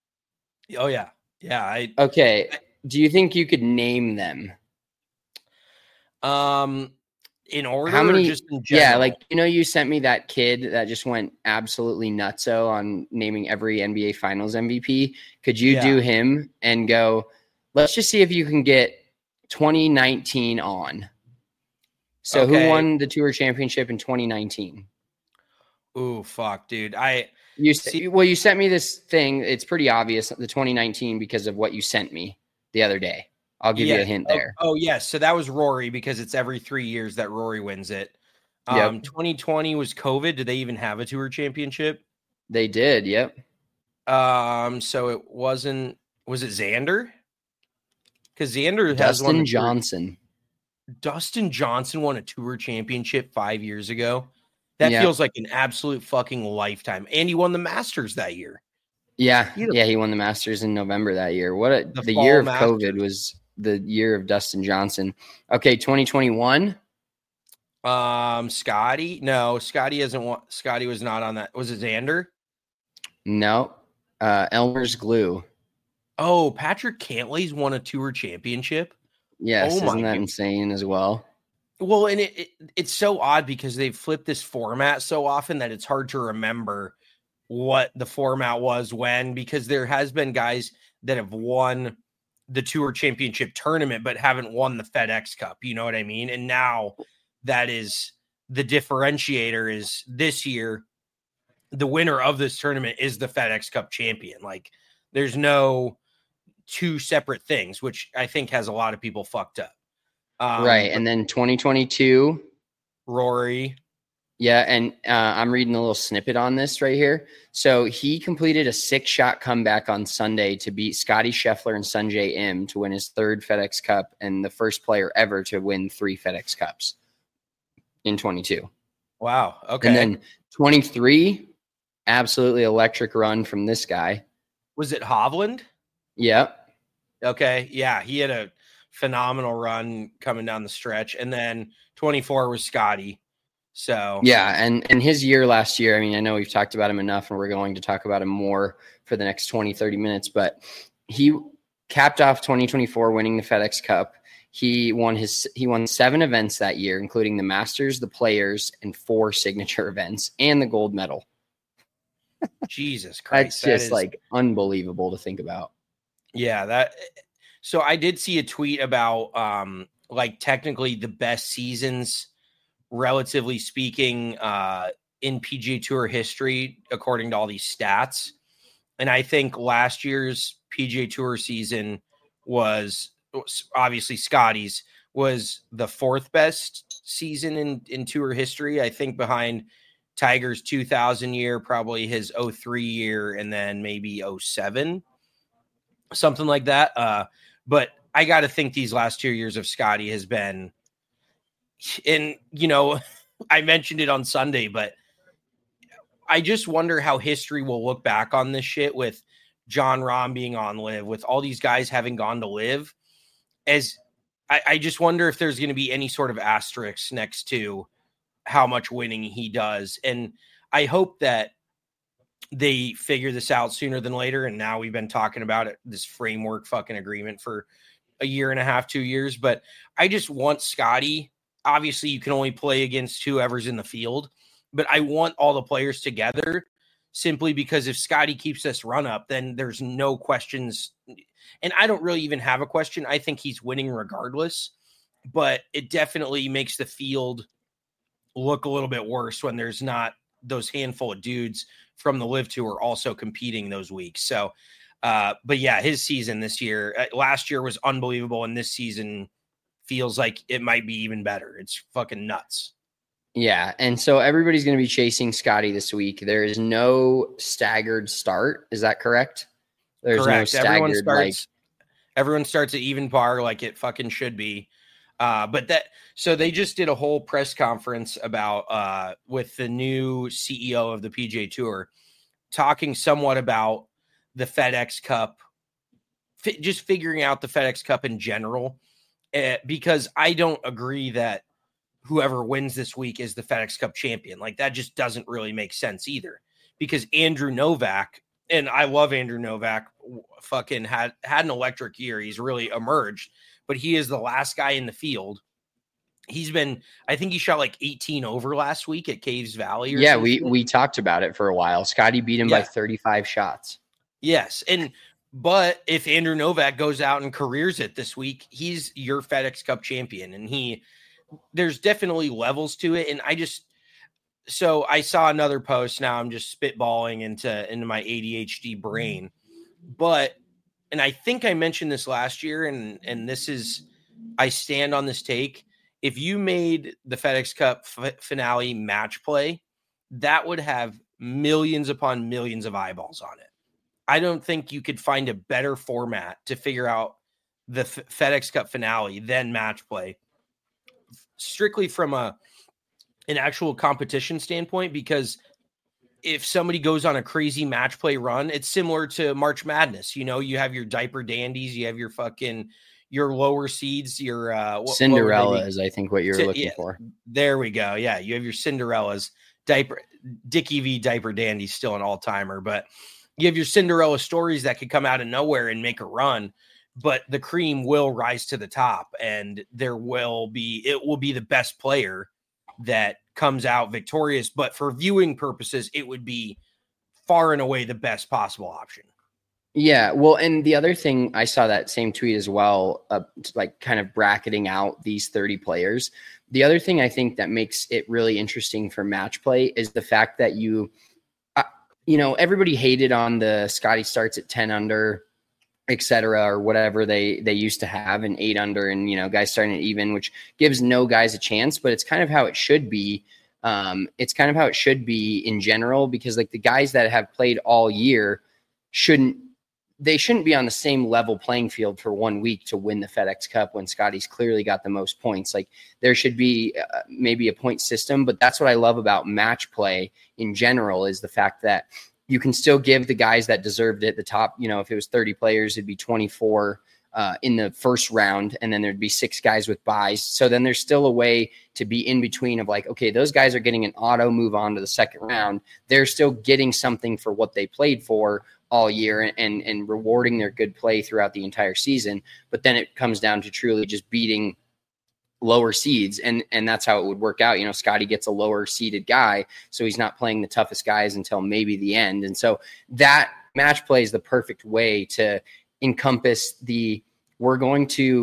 Oh yeah. Yeah. I, okay. Do you think you could name them? Um, in order, how many? Or just in general? Yeah, like you know, you sent me that kid that just went absolutely nutso on naming every N B A Finals M V P. Could you Yeah. do him and go? Let's just see if you can get twenty nineteen on. So Okay. who won the Tour Championship in twenty nineteen? Ooh, fuck, dude. I You See- well, you sent me this thing. It's pretty obvious, the twenty nineteen, because of what you sent me the other day. I'll give you a hint oh, there. Oh, yes. So that was Rory because it's every three years that Rory wins it. Yep. Um, twenty twenty was COVID. Did they even have a Tour Championship? They did. Yep. Um, so it wasn't. Was it Xander? Because Xander has won Dustin a Tour- Johnson. Dustin Johnson won a Tour Championship five years ago. That Yeah. feels like an absolute fucking lifetime. And he won the Masters that year. Yeah, He- yeah, he won the Masters in November that year. What a, The the, fall year of Masters. COVID was the year of Dustin Johnson. Okay, twenty twenty-one. Um, Scotty. No, Scotty hasn't won. Scotty was not on that. Was it Xander? No, uh, Elmer's Glue. Oh, Patrick Cantley's won a Tour Championship. Yes, Oh my isn't that God. insane as well? Well, and it, it it's so odd because they've flipped this format so often that it's hard to remember what the format was when, because there has been guys that have won the Tour Championship tournament but haven't won the FedEx Cup. You know what I mean? And now that is the differentiator is this year, the winner of this tournament is the FedEx Cup champion. Like there's no two separate things, which I think has a lot of people fucked up. Um, Right, and then twenty twenty-two. Rory. Yeah, and uh, I'm reading a little snippet on this right here. So he completed a six-shot comeback on Sunday to beat Scotty Scheffler and Sungjae Im to win his third FedEx Cup and the first player ever to win three FedEx Cups in twenty-two. Wow. Okay. And then twenty-three, absolutely electric run from this guy. Was it Hovland? Yep. Okay. Yeah. He had a phenomenal run coming down the stretch. And then twenty-four was Scotty. So Yeah, and and his year last year, I mean, I know we've talked about him enough and we're going to talk about him more for the next twenty, thirty minutes, but he capped off twenty twenty-four winning the FedEx Cup. He won his he won seven events that year, including the Masters, the Players, and four signature events, and the gold medal. Jesus Christ. That's that just is- like unbelievable to think about. yeah, that. So I did see a tweet about um like technically the best seasons, relatively speaking, uh, in P G A Tour history, according to all these stats. And I think last year's P G A Tour season was obviously Scotty's was the fourth best season in, in tour history. I think behind Tiger's two thousand year, probably his oh three year, and then maybe oh seven, something like that. Uh, but I got to think these last two years of Scotty has been, and you know, I mentioned it on Sunday, but I just wonder how history will look back on this shit with Jon Rahm being on Live, with all these guys having gone to Live. As I, I just wonder if there's going to be any sort of asterisk next to how much winning he does. And I hope that they figure this out sooner than later. And now we've been talking about it, this framework fucking agreement for a year and a half, two years. But I just want Scotty. Obviously, you can only play against whoever's in the field, but I want all the players together simply because if Scotty keeps this run up, then there's no questions. And I don't really even have a question. I think he's winning regardless, but it definitely makes the field look a little bit worse when there's not those handful of dudes from the Live Tour also competing those weeks. So, uh, but yeah, his season this year, uh, last year was unbelievable. And this season feels like it might be even better. It's fucking nuts. Yeah, and so everybody's going to be chasing Scotty this week. There is no staggered start. Is that correct? There's correct. no staggered, everyone starts, like... everyone starts at even par like it fucking should be. Uh, but that, so they just did a whole press conference about, uh, with the new C E O of the P G A Tour, talking somewhat about the FedEx Cup, fi- just figuring out the FedEx Cup in general, uh, because I don't agree that whoever wins this week is the FedEx Cup champion. Like that just doesn't really make sense either, because Andrew Novak, and I love Andrew Novak, fucking had, had an electric year. He's really emerged, but he is the last guy in the field. He's been, I think he shot like eighteen over last week at Caves Valley. Or yeah, something. we, we talked about it for a while. Scotty beat him yeah. by thirty-five shots. Yes. And, but if Andrew Novak goes out and careers it this week, he's your FedEx Cup champion. And he, there's definitely levels to it. And I just, so I saw another post. Now I'm just spitballing into, into my A D H D brain, but, and I think I mentioned this last year, and, and this is, I stand on this take. If you made the FedEx Cup f- finale match play, that would have millions upon millions of eyeballs on it. I don't think you could find a better format to figure out the F- FedEx Cup finale than match play, strictly from a an actual competition standpoint, because if somebody goes on a crazy match play run, it's similar to March Madness. You know, you have your diaper dandies, you have your fucking, your lower seeds, your uh, what, Cinderella what is, I think, what you're C- looking yeah, for. There we go. Yeah, you have your Cinderellas. Diaper Dickie V Diaper Dandy, still an all timer, but you have your Cinderella stories that could come out of nowhere and make a run. But the cream will rise to the top, and there will be, it will be the best player that comes out victorious. But for viewing purposes, it would be far and away the best possible option. Yeah. Well, and the other thing, I saw that same tweet as well, uh, like kind of bracketing out these thirty players. The other thing I think that makes it really interesting for match play is the fact that you, uh, you know, everybody hated on the Scotty starts at ten under, et cetera, or whatever they, they used to have, an eight under, and, you know, guys starting at even, which gives no guys a chance, but it's kind of how it should be. Um, it's kind of how it should be in general, because like the guys that have played all year shouldn't, they shouldn't be on the same level playing field for one week to win the FedEx Cup when Scotty's clearly got the most points. Like there should be uh, maybe a point system, but that's what I love about match play in general, is the fact that you can still give the guys that deserved it at the top. You know, if it was thirty players, it'd be twenty-four uh, in the first round, and then there'd be six guys with buys. So then there's still a way to be in between of like, okay, those guys are getting an auto move on to the second round. They're still getting something for what they played for all year, and, and rewarding their good play throughout the entire season. But then it comes down to truly just beating lower seeds. And, and that's how it would work out. You know, Scotty gets a lower seeded guy, so he's not playing the toughest guys until maybe the end. And so that match play is the perfect way to encompass the, we're going to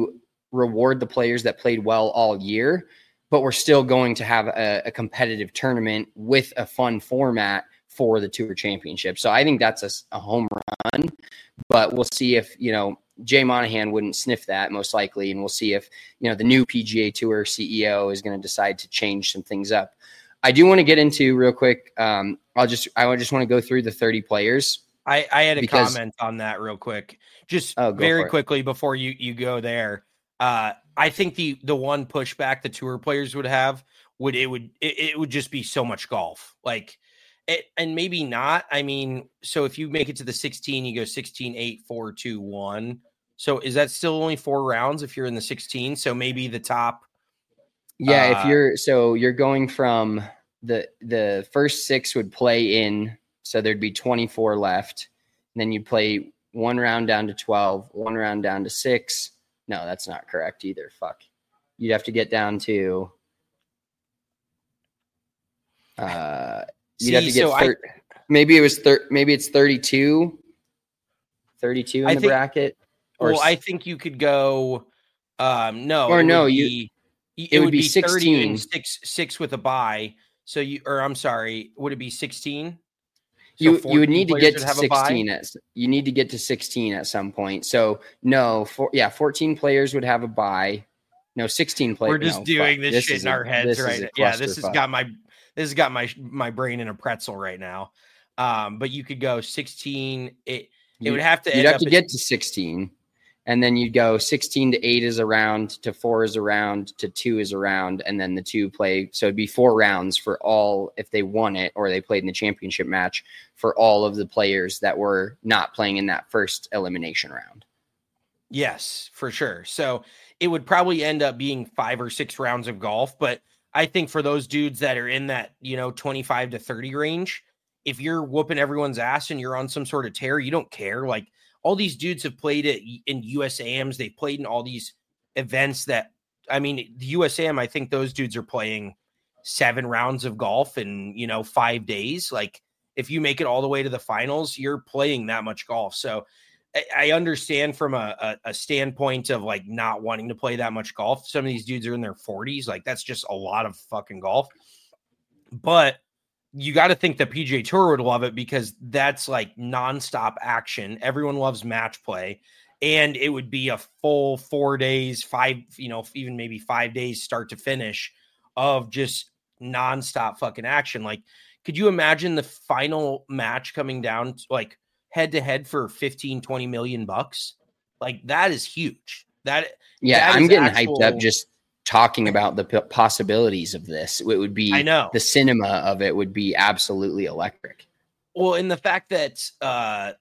reward the players that played well all year, but we're still going to have a, a competitive tournament with a fun format for the Tour Championship. So I think that's a, a home run, but we'll see if, you know, Jay Monahan wouldn't sniff that most likely. And we'll see if, you know, the new P G A Tour C E O is going to decide to change some things up. I do want to get into real quick. Um, I'll just, I just want to go through the thirty players. I, I had a because, comment on that real quick, just oh, very quickly before you, you go there. Uh, I think the, the one pushback the tour players would have would, it would, it, it would just be so much golf. Like, it, and maybe not. I mean, so if you make it to the sixteen, you go sixteen, eight, four, two, one. So is that still only four rounds if you're in the sixteen? So maybe the top. Yeah. Uh, if you're, so you're going from the, the first six would play in, so there'd be twenty-four left. And then you'd play one round down to twelve, one round down to six. No, that's not correct either. Fuck. You'd have to get down to, uh, you'd See, have to get, so thir- I, maybe it was, thir- maybe it's thirty-two, thirty-two in I the think, bracket. Or well, I think you could go, um, no, or it no, would you, be, it, it would would be be thirty sixteen. and six, six with a bye. So you, or I'm sorry, would it be sixteen? So You you would need to get to have sixteen at you need to get to sixteen at some point. So no, for yeah, fourteen players would have a bye. No, sixteen players. We're just no, doing fuck. this, this shit in a, our heads right now. Yeah, this has clusterfuck. got my this has got my my brain in a pretzel right now. Um, but you could go sixteen. It it you, would have to. You'd end have up to at, get to sixteen, and then you'd go sixteen to eight is a round, to four is a round, to two is a round, and then the two play. So it'd be four rounds for all if they won it or they played in the championship match for all of the players that were not playing in that first elimination round. Yes, for sure. So it would probably end up being five or six rounds of golf. But I think for those dudes that are in that, you know, twenty-five to thirty range, if you're whooping everyone's ass and you're on some sort of tear, you don't care. Like, all these dudes have played it in U S A Ms. They've played in all these events that, I mean, the U S A M, I think those dudes are playing seven rounds of golf in, you know, five days. Like, if you make it all the way to the finals, you're playing that much golf. So I, I understand from a, a, a standpoint of like not wanting to play that much golf. Some of these dudes are in their forties. Like, that's just a lot of fucking golf. But you got to think the P G A Tour would love it because that's like nonstop action. Everyone loves match play, and it would be a full four days, five, you know, even maybe five days start to finish of just nonstop fucking action. Like, could you imagine the final match coming down to, like, head to head for fifteen, twenty million bucks? Like, that is huge. That yeah, that I'm getting actual, hyped up just talking about the p- possibilities of this. It would be, I know the cinema of it would be absolutely electric. Well, and the fact that uh,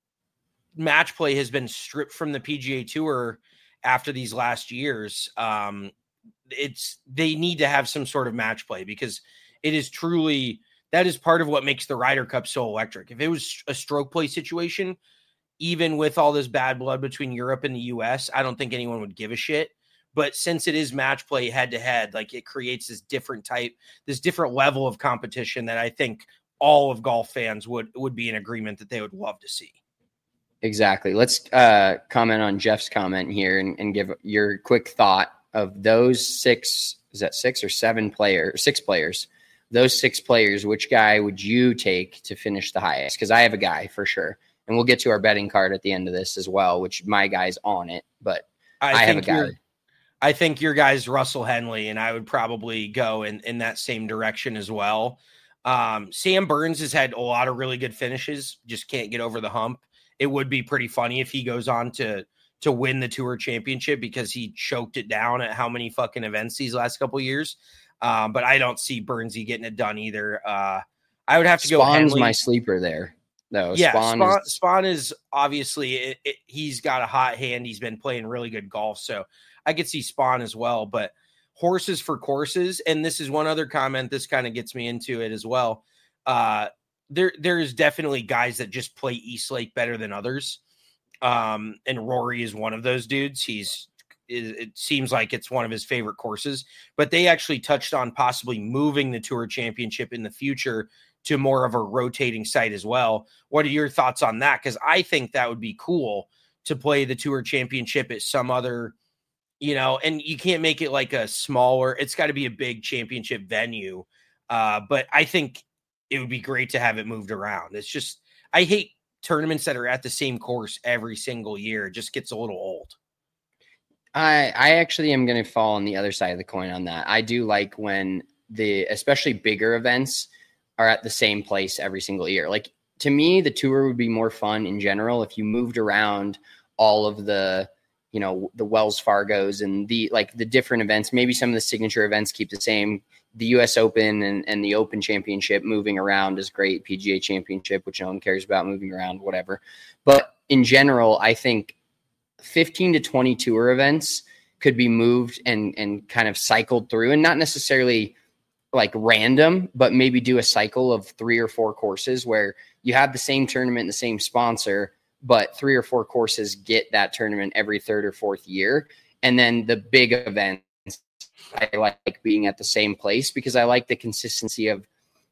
match play has been stripped from the P G A Tour after these last years, um, it's they need to have some sort of match play because it is truly that is part of what makes the Ryder Cup so electric. If it was a stroke play situation, even with all this bad blood between Europe and the U S, I don't think anyone would give a shit. But since it is match play head to head, like, it creates this different type, this different level of competition that I think all of golf fans would, would be in agreement that they would love to see. Exactly. Let's uh, comment on Jeff's comment here and, and give your quick thought of those six. Is that six or seven players, six players, those six players, which guy would you take to finish the highest? Because I have a guy for sure. And we'll get to our betting card at the end of this as well, which my guy's on it, but I, I have a guy. I think your guy's Russell Henley, and I would probably go in, in that same direction as well. Um, Sam Burns has had a lot of really good finishes, just can't get over the hump. It would be pretty funny if he goes on to to win the Tour Championship because he choked it down at how many fucking events these last couple of years. Um, but I don't see Burnsy getting it done either. Uh, I would have to Spawn's go Henley. my sleeper there. No, yeah, Spawn, Spawn, is, Spawn is obviously it, it, he's got a hot hand. He's been playing really good golf, so I could see Spawn as well. But horses for courses, and this is one other comment. This kind of gets me into it as well. Uh, there, there is definitely guys that just play East Lake better than others, um, and Rory is one of those dudes. He's it seems like it's one of his favorite courses. But they actually touched on possibly moving the Tour Championship in the future to more of a rotating site as well. What are your thoughts on that? Because I think that would be cool to play the Tour Championship at some other, you know, and you can't make it like a smaller, it's got to be a big championship venue. Uh, but I think it would be great to have it moved around. It's just, I hate tournaments that are at the same course every single year. It just gets a little old. I I actually am going to fall on the other side of the coin on that. I do like when the, especially bigger events are at the same place every single year. Like, to me, the tour would be more fun in general if you moved around all of the, you know, the Wells Fargos and the, like the different events. Maybe some of the signature events keep the same. The U S Open and, and the Open Championship moving around is great. P G A Championship, which no one cares about moving around, whatever. But in general, I think fifteen to twenty tour events could be moved and, and kind of cycled through, and not necessarily like random, but maybe do a cycle of three or four courses where you have the same tournament, the same sponsor, but three or four courses get that tournament every third or fourth year. And then the big events, I like being at the same place because I like the consistency of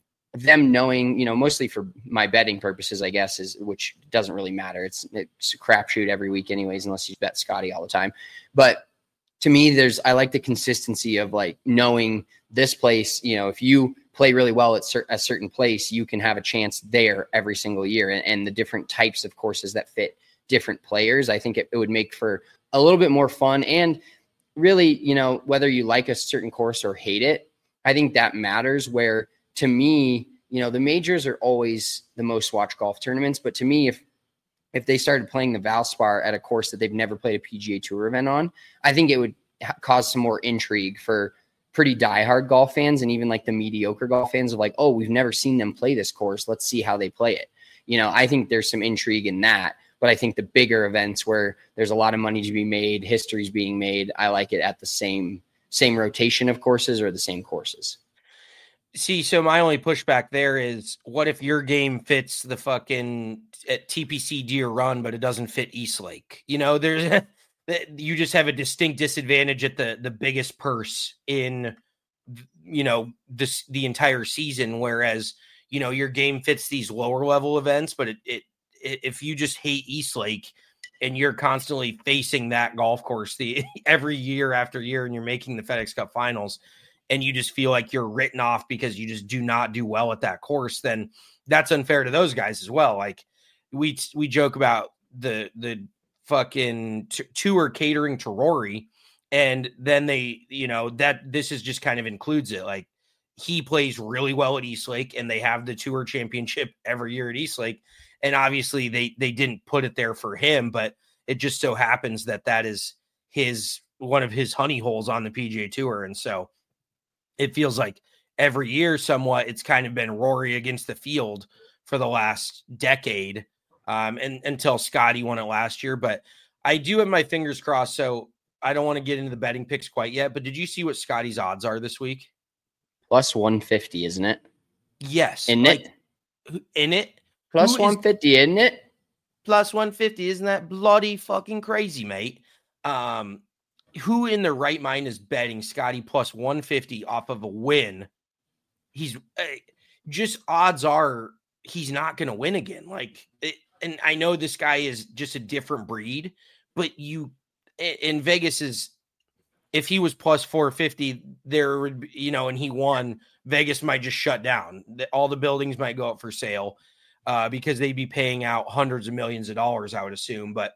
them knowing, you know, mostly for my betting purposes, I guess, is, which doesn't really matter. It's, it's a crapshoot every week anyways, unless you bet Scotty all the time. But to me, there's, I like the consistency of like knowing this place, you know, if you play really well at cer- a certain place, you can have a chance there every single year, and, and the different types of courses that fit different players. I think it, it would make for a little bit more fun. And really, you know, whether you like a certain course or hate it, I think that matters. Where to me, you know, the majors are always the most watched golf tournaments. But to me, if, if they started playing the Valspar at a course that they've never played a P G A Tour event on, I think it would ha- cause some more intrigue for pretty diehard golf fans, and even like the mediocre golf fans of like, oh, we've never seen them play this course. Let's see how they play it. You know, I think there's some intrigue in that. But I think the bigger events where there's a lot of money to be made, history's being made, I like it at the same same rotation of courses or the same courses. See, so my only pushback there is, what if your game fits the fucking at T P C Deer Run, but it doesn't fit East Lake? You know, there's you just have a distinct disadvantage at the the biggest purse in, you know, this the entire season, whereas, you know, your game fits these lower level events, but it, it if you just hate East Lake and you're constantly facing that golf course the every year after year, and you're making the FedEx Cup Finals, and you just feel like you're written off because you just do not do well at that course, then that's unfair to those guys as well. Like we we joke about the the fucking t- tour catering to Rory, and then they, you know, that this is just kind of includes it. Like, he plays really well at East Lake, and they have the tour championship every year at East Lake. And obviously they, they didn't put it there for him, but it just so happens that that is his, one of his honey holes on the P G A Tour. And so it feels like every year somewhat it's kind of been Rory against the field for the last decade, um, and until Scotty won it last year. But I do have my fingers crossed. So I don't want to get into the betting picks quite yet, but did you see what Scotty's odds are this week? Plus one fifty, isn't it? Yes. In like, it? In it? Plus one fifty, isn't it? Plus one fifty. Isn't that bloody fucking crazy, mate? Um, who in their right mind is betting Scotty plus one fifty off of a win? He's uh, just odds are he's not going to win again. Like, it, and I know this guy is just a different breed, but you in Vegas is, if he was plus four fifty, there would be, you know, and he won, Vegas might just shut down. All the buildings might go up for sale. Uh, because they'd be paying out hundreds of millions of dollars, I would assume. But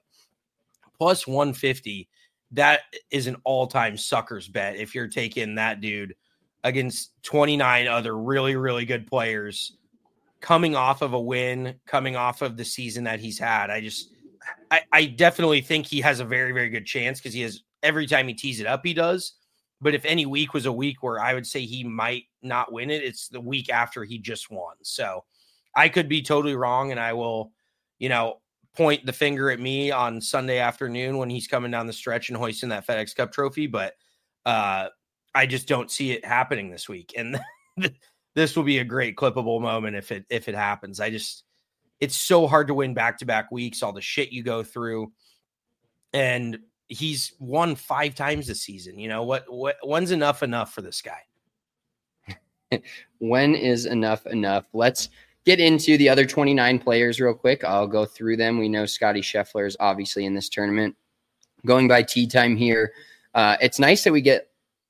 plus one fifty, that is an all-time sucker's bet if you're taking that dude against twenty-nine other really, really good players coming off of a win, coming off of the season that he's had. I just, I, I definitely think he has a very, very good chance, because he has, every time he tees it up, he does. But if any week was a week where I would say he might not win it, it's the week after he just won. So I could be totally wrong, and I will, you know, point the finger at me on Sunday afternoon when he's coming down the stretch and hoisting that FedEx Cup trophy. But uh, I just don't see it happening this week. And this will be a great clippable moment if it if it happens. I just, it's so hard to win back-to-back weeks, all the shit you go through. And he's won five times this season. You know, what, what when's enough enough for this guy? When is enough enough? Let's get into the other twenty-nine players real quick. I'll go through them. We know Scotty Scheffler is obviously in this tournament. Going by tee time here, uh, it's nice that we get,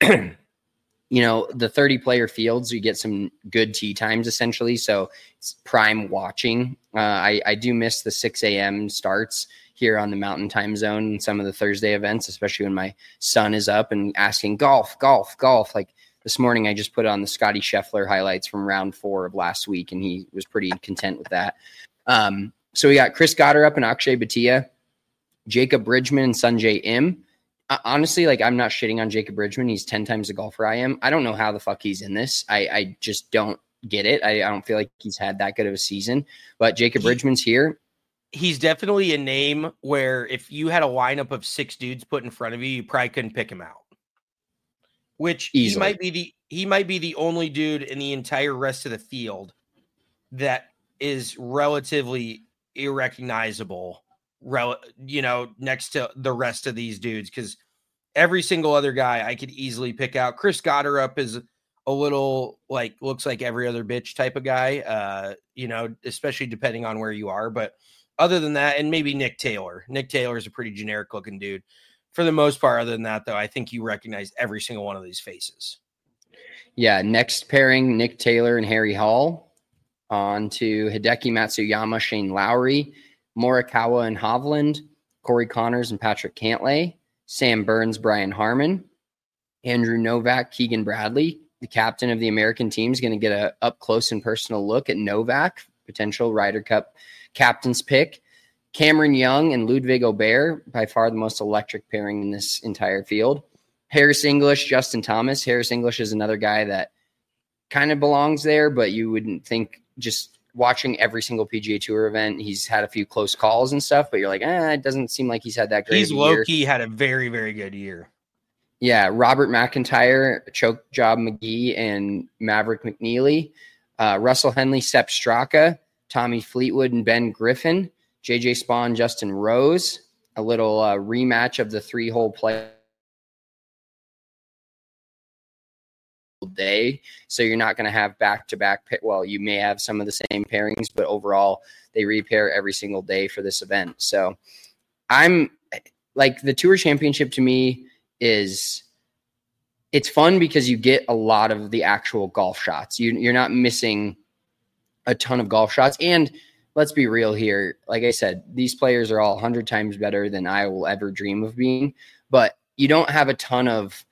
you know, the thirty player fields, you get some good tee times essentially. So it's prime watching. Uh, I, I do miss the six a.m. starts here on the Mountain Time Zone and some of the Thursday events, especially when my son is up and asking golf, golf, golf. Like this morning, I just put on the Scotty Scheffler highlights from round four of last week, and he was pretty content with that. Um, so we got Chris Goddard up and Akshay Bhatia, Jacob Bridgman and Sanjay Im. Uh, honestly, like I'm not shitting on Jacob Bridgman. He's ten times the golfer I am. I don't know how the fuck he's in this. I, I just don't get it. I, I don't feel like he's had that good of a season, but Jacob he, Bridgman's here. He's definitely a name where if you had a lineup of six dudes put in front of you, you probably couldn't pick him out. Which Easily. he might be the he might be the only dude in the entire rest of the field that is relatively irrecognizable, rel- you know, next to the rest of these dudes, because every single other guy I could easily pick out. Chris Goddard up is a little like looks like every other bitch type of guy, uh, you know, especially depending on where you are. But other than that, and maybe Nick Taylor. Nick Taylor is a pretty generic looking dude. For the most part, other than that, though, I think you recognize every single one of these faces. Yeah, next pairing, Nick Taylor and Harry Hall. On to Hideki Matsuyama, Shane Lowry, Morikawa and Hovland, Corey Connors and Patrick Cantlay, Sam Burns, Brian Harmon, Andrew Novak, Keegan Bradley. The captain of the American team is going to get a up close and personal look at Novak, potential Ryder Cup captain's pick. Cameron Young and Ludwig Aubert, by far the most electric pairing in this entire field. Harris English, Justin Thomas. Harris English is another guy that kind of belongs there, but you wouldn't think, just watching every single P G A Tour event, he's had a few close calls and stuff, but you're like, eh, it doesn't seem like he's had that great He's of a low-key year. had a very, very good year. Yeah, Robert McIntyre, Choke Job McGee, and Maverick McNeely. Uh, Russell Henley, Sepp Straka, Tommy Fleetwood, and Ben Griffin. J J Spawn, Justin Rose. A little uh, rematch of the three-hole play day. So you're not going to have back-to-back. Pa- well, you may have some of the same pairings, but overall, they repair every single day for this event. So I'm like, the Tour Championship to me is, it's fun because you get a lot of the actual golf shots. You, you're not missing a ton of golf shots. And let's be real here. Like I said, these players are all a hundred times better than I will ever dream of being, but you don't have a ton of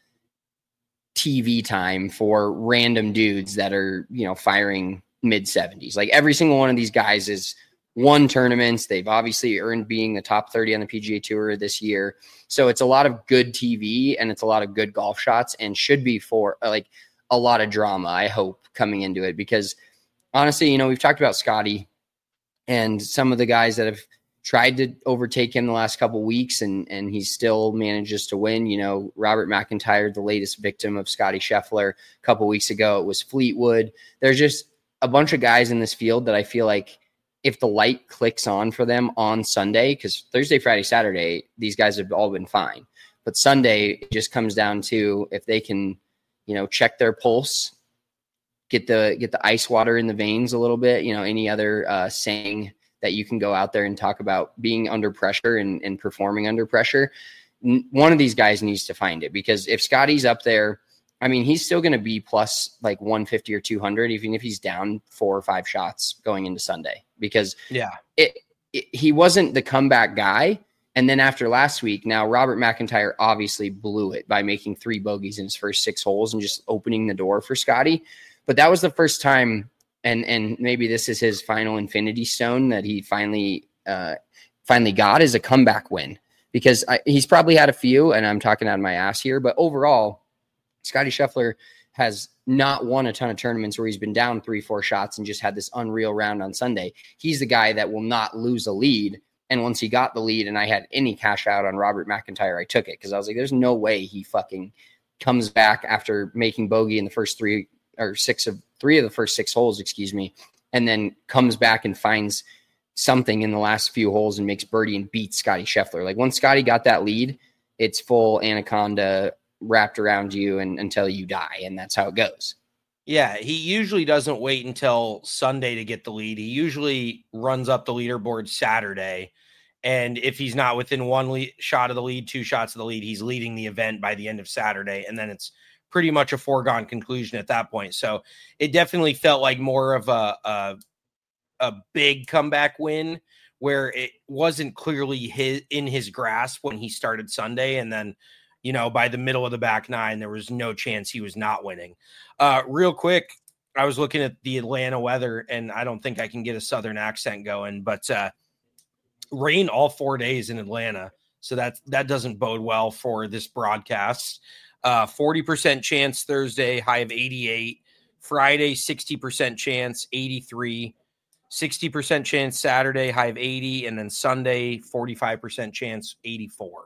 T V time for random dudes that are, you know, firing mid seventies. Like every single one of these guys is won tournaments. They've obviously earned being the top thirty on the P G A Tour this year. So it's a lot of good T V and it's a lot of good golf shots, and should be for like a lot of drama, I hope, coming into it, because honestly, you know, we've talked about Scotty and some of the guys that have tried to overtake him the last couple of weeks, and and he still manages to win. You know, Robert McIntyre, the latest victim of Scotty Scheffler. A couple of weeks ago, it was Fleetwood. There's just a bunch of guys in this field that I feel like if the light clicks on for them on Sunday, because Thursday, Friday, Saturday, these guys have all been fine. But Sunday, it just comes down to if they can, you know, check their pulse, get the get the ice water in the veins a little bit. You know, any other uh, saying that you can go out there and talk about being under pressure and, and performing under pressure. One of these guys needs to find it, because if Scotty's up there, I mean, he's still going to be plus like one fifty or two hundred, even if he's down four or five shots going into Sunday, because yeah, it, it he wasn't the comeback guy. And then after last week, now Robert McIntyre obviously blew it by making three bogeys in his first six holes and just opening the door for Scotty. But that was the first time, and and maybe this is his final infinity stone that he finally uh, finally got, is a comeback win, because I, he's probably had a few, and I'm talking out of my ass here, but overall, Scotty Scheffler has not won a ton of tournaments where he's been down three, four shots and just had this unreal round on Sunday. He's the guy that will not lose a lead. And once he got the lead and I had any cash out on Robert McIntyre, I took it, because I was like, there's no way he fucking comes back after making bogey in the first three or six of three of the first six holes, excuse me, and then comes back and finds something in the last few holes and makes birdie and beats Scotty Scheffler. Like once Scotty got that lead, it's full anaconda wrapped around you and until you die. And that's how it goes. Yeah. He usually doesn't wait until Sunday to get the lead. He usually runs up the leaderboard Saturday And if he's not within one lead, shot of the lead, two shots of the lead, he's leading the event by the end of Saturday. And then it's pretty much a foregone conclusion at that point. So it definitely felt like more of a, a, a big comeback win where it wasn't clearly his in his grasp when he started Sunday. And then, you know, by the middle of the back nine, there was no chance he was not winning. Uh, real quick, I was looking at the Atlanta weather, and I don't think I can get a Southern accent going, but uh, rain all four days in Atlanta. So that, that doesn't bode well for this broadcast. Uh, forty percent chance Thursday, high of eighty-eight. Friday, sixty percent chance, eighty-three. sixty percent chance Saturday, high of eighty. And then Sunday, forty-five percent chance, eighty-four.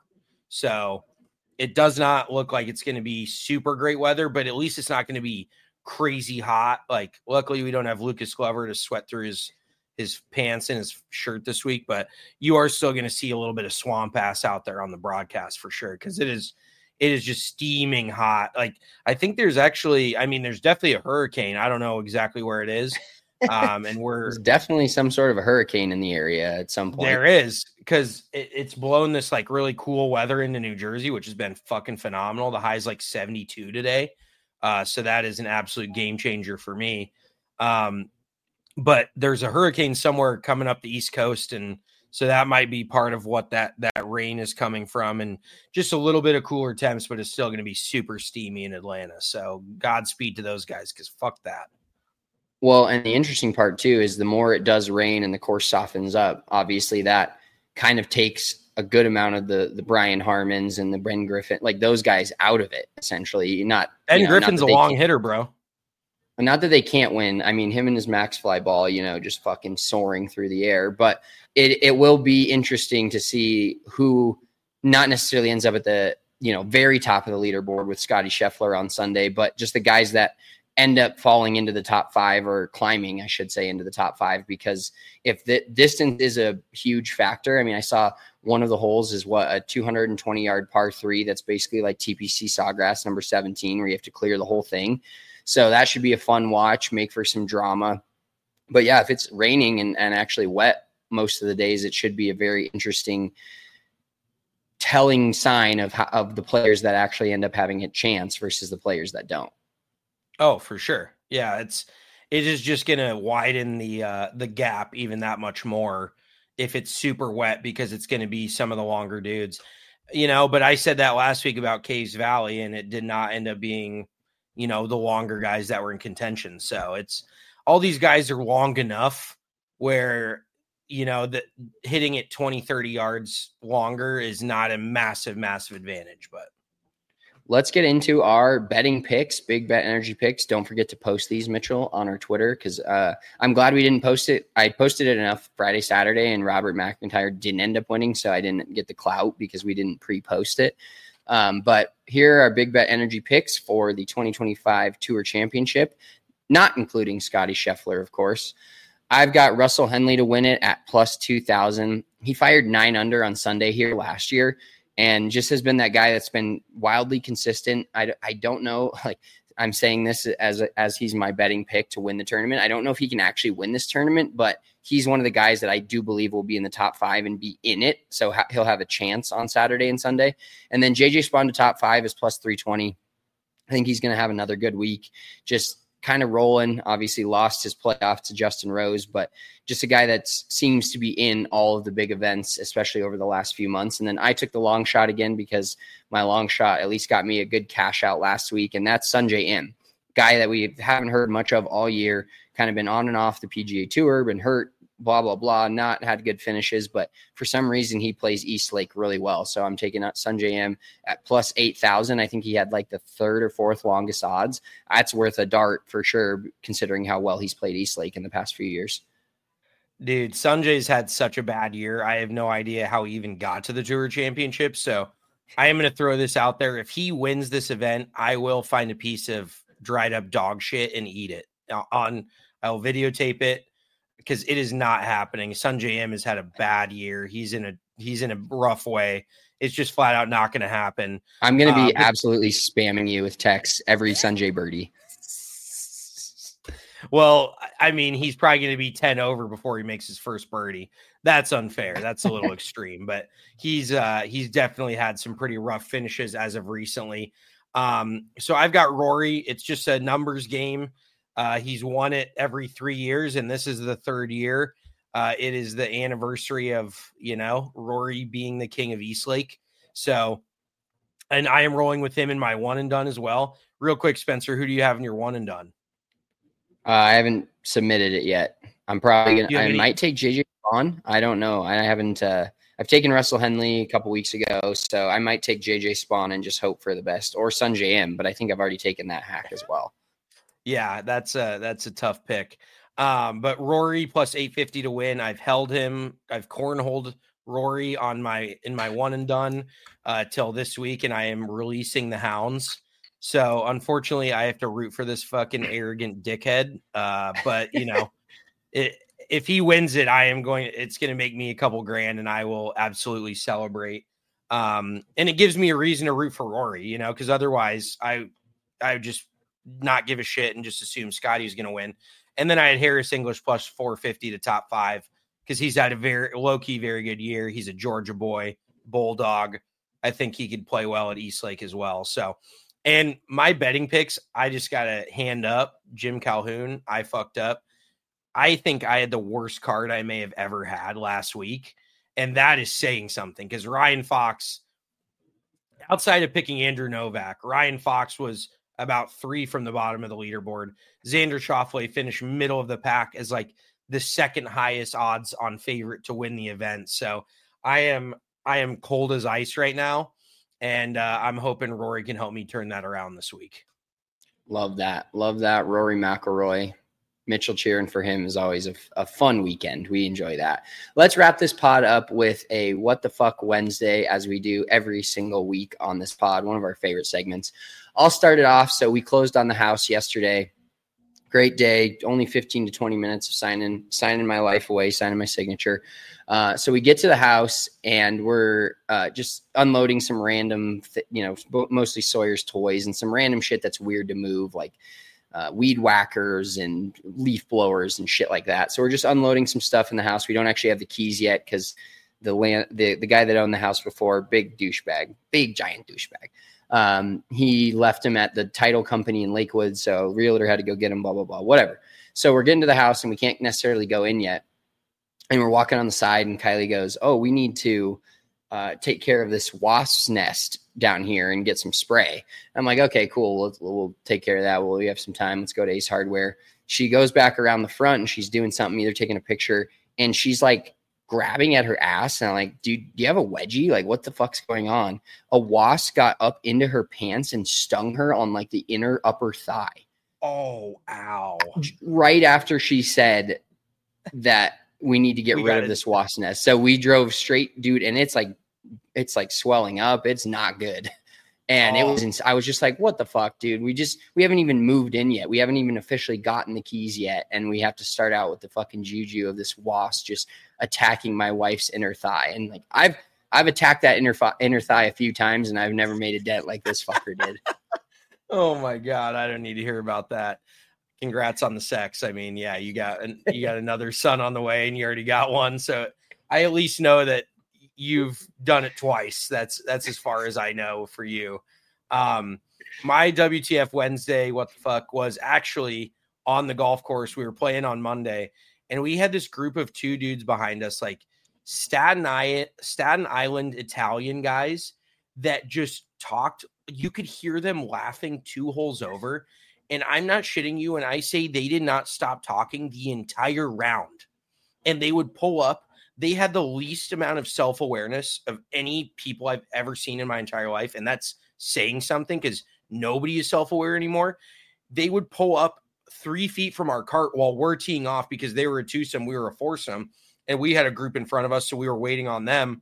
So it does not look like it's going to be super great weather, but at least it's not going to be crazy hot. Like, luckily we don't have Lucas Glover to sweat through his his pants and his shirt this week, but you are still going to see a little bit of swamp ass out there on the broadcast for sure, because it is it is just steaming hot. Like, I think there's actually, I mean, there's definitely a hurricane. I don't know exactly where it is. Um, and we're There's definitely some sort of a hurricane in the area at some point. There is, because it, it's blown this like really cool weather into New Jersey, which has been fucking phenomenal. The high is like seventy-two today. Uh, so that is an absolute game changer for me. Um, but there's a hurricane somewhere coming up the East Coast. And so that might be part of what that, that rain is coming from, and just a little bit of cooler temps, but it's still going to be super steamy in Atlanta. So Godspeed to those guys, because fuck that. Well, and the interesting part too is the more it does rain and the course softens up, obviously that kind of takes a good amount of the the Brian Harmons and the Ben Griffin, like those guys, out of it. Essentially, not Ben you know, Griffin's not a long hitter, bro. Not that they can't win. I mean, him and his max fly ball, you know, just fucking soaring through the air. But it it will be interesting to see who not necessarily ends up at the you know very top of the leaderboard with Scotty Scheffler on Sunday, but just the guys that end up falling into the top five, or climbing, I should say, into the top five, because if the distance is a huge factor, I mean, I saw one of the holes is what, a two hundred twenty yard par three. That's basically like T P C Sawgrass number seventeen, where you have to clear the whole thing. So that should be a fun watch, make for some drama. But yeah, if it's raining and, and actually wet most of the days, it should be a very interesting telling sign of how, of the players that actually end up having a chance versus the players that don't. Oh, for sure. Yeah, it's it is just going to widen the uh, the gap even that much more if it's super wet, because it's going to be some of the longer dudes, you know. But I said that last week about Caves Valley, and it did not end up being, you know, the longer guys that were in contention. So it's all these guys are long enough where, you know, that hitting it twenty, thirty yards longer is not a massive, massive advantage, but. Let's get into our betting picks, Big Bet Energy picks. Don't forget to post these, Mitchell, on our Twitter, because uh, I'm glad we didn't post it. I posted it enough Friday, Saturday, and Robert McIntyre didn't end up winning, so I didn't get the clout because we didn't pre-post it. Um, but here are our Big Bet Energy picks for the twenty twenty-five Tour Championship, not including Scotty Scheffler, of course. I've got Russell Henley to win it at plus two thousand. He fired nine under on Sunday here last year, and just has been that guy that's been wildly consistent. I, I don't know, like I'm saying this as as he's my betting pick to win the tournament. I don't know if he can actually win this tournament, but he's one of the guys that I do believe will be in the top five and be in it. So ha- he'll have a chance on Saturday and Sunday. And then J J Spaun to top five is plus three twenty. I think he's going to have another good week. Just kind of rolling. Obviously lost his playoff to Justin Rose, but just a guy that seems to be in all of the big events, especially over the last few months. And then I took the long shot again because my long shot at least got me a good cash out last week. And that's Sungjae Im, guy that we haven't heard much of all year, kind of been on and off the P G A Tour, been hurt, blah, blah, blah, not had good finishes, but for some reason he plays East Lake really well. So I'm taking out Sungjae Im at plus eight thousand. I think he had like the third or fourth longest odds. That's worth a dart for sure, considering how well he's played East Lake in the past few years. Dude, Sungjae's had such a bad year. I have no idea how he even got to the Tour Championship. So I am going to throw this out there. If he wins this event, I will find a piece of dried up dog shit and eat it. On, I'll videotape it, because it is not happening. Sungjae Im has had a bad year. He's in a he's in a rough way. It's just flat out not going to happen. I'm going to be uh, but, absolutely spamming you with texts every Sungjae birdie. Well, I mean, he's probably going to be ten over before he makes his first birdie. That's unfair. That's a little extreme, but he's uh, he's definitely had some pretty rough finishes as of recently. Um, so I've got Rory. It's just a numbers game. Uh, he's won it every three years, and this is the third year. Uh, it is the anniversary of, you know, Rory being the king of Eastlake. So, and I am rolling with him in my one and done as well. Real quick, Spencer, who do you have in your one and done? Uh, I haven't submitted it yet. I'm probably going to, I any- might take J J Spawn. I don't know. I haven't, uh, I've taken Russell Henley a couple weeks ago, so I might take J J Spawn and just hope for the best, or Sunjay M, but I think I've already taken that hack as well. Yeah, that's a, that's a tough pick. Um, but Rory plus eight fifty to win. I've held him. I've cornholed Rory on my, in my one and done uh, till this week. And I am releasing the hounds. So unfortunately I have to root for this fucking arrogant dickhead. Uh, but you know, it, if he wins it, I am going, it's going to make me a couple grand and I will absolutely celebrate. Um, and it gives me a reason to root for Rory, you know, cause otherwise I, I would just not give a shit and just assume Scotty's going to win. And then I had Harris English plus four fifty to top five because he's had a very low-key, very good year. He's a Georgia boy, bulldog. I think he could play well at Eastlake as well. So, and my betting picks, I just got to hand up Jim Calhoun. I fucked up. I think I had the worst card I may have ever had last week. And that is saying something because Ryan Fox, outside of picking Andrew Novak, Ryan Fox was about three from the bottom of the leaderboard. Xander Schauffele finished middle of the pack as like the second highest odds on favorite to win the event. So I am, I am cold as ice right now. And uh, I'm hoping Rory can help me turn that around this week. Love that. Love that. Rory McIlroy. Mitchell cheering for him is always a, a fun weekend. We enjoy that. Let's wrap this pod up with a What the Fuck Wednesday, as we do every single week on this pod, one of our favorite segments. I'll start it off. So we closed on the house yesterday. Great day. Only fifteen to twenty minutes of signing, signing my life away, signing my signature. Uh, so we get to the house and we're uh, just unloading some random, th- you know, mostly Sawyer's toys and some random shit that's weird to move, like uh, weed whackers and leaf blowers and shit like that. So we're just unloading some stuff in the house. We don't actually have the keys yet because the land, the, the guy that owned the house before, big douchebag, big giant douchebag. Um, he left him at the title company in Lakewood. So realtor had to go get him, blah, blah, blah, whatever. So we're getting to the house and we can't necessarily go in yet. And we're walking on the side and Kylie goes, oh, we need to uh, take care of this wasp's nest down here and get some spray. I'm like, okay, cool. We'll, we'll take care of that. Well, we have some time. Let's go to Ace Hardware. She goes back around the front and she's doing something, either taking a picture, and she's like grabbing at her ass. And I'm like, dude, do you have a wedgie? Like, what the fuck's going on? A wasp got up into her pants and stung her on like the inner upper thigh. Oh, ow. Right after she said that we need to get We rid gotta- of this wasp nest. So we drove straight, dude, and it's like, it's like swelling up. It's not good. And Oh. it was, ins- I was just like, what the fuck, dude? We just, we haven't even moved in yet. We haven't even officially gotten the keys yet. And we have to start out with the fucking juju of this wasp just attacking my wife's inner thigh. And like, I've, I've attacked that inner, fi- inner thigh a few times and I've never made a dent like this fucker did. Oh my God. I don't need to hear about that. Congrats on the sex. I mean, yeah, you got, an, you got another son on the way and you already got one. So I at least know that you've done it twice. That's, that's as far as I know for you. Um, my W T F Wednesday, what the fuck, was actually on the golf course. We were playing on Monday and we had this group of two dudes behind us, like Staten Island, Staten Island Italian guys that just talked. You could hear them laughing two holes over. And I'm not shitting you when I say they did not stop talking the entire round. And they would pull up. They had the least amount of self-awareness of any people I've ever seen in my entire life. And that's saying something because nobody is self-aware anymore. They would pull up three feet from our cart while we're teeing off because they were a twosome, we were a foursome, and we had a group in front of us, so we were waiting on them.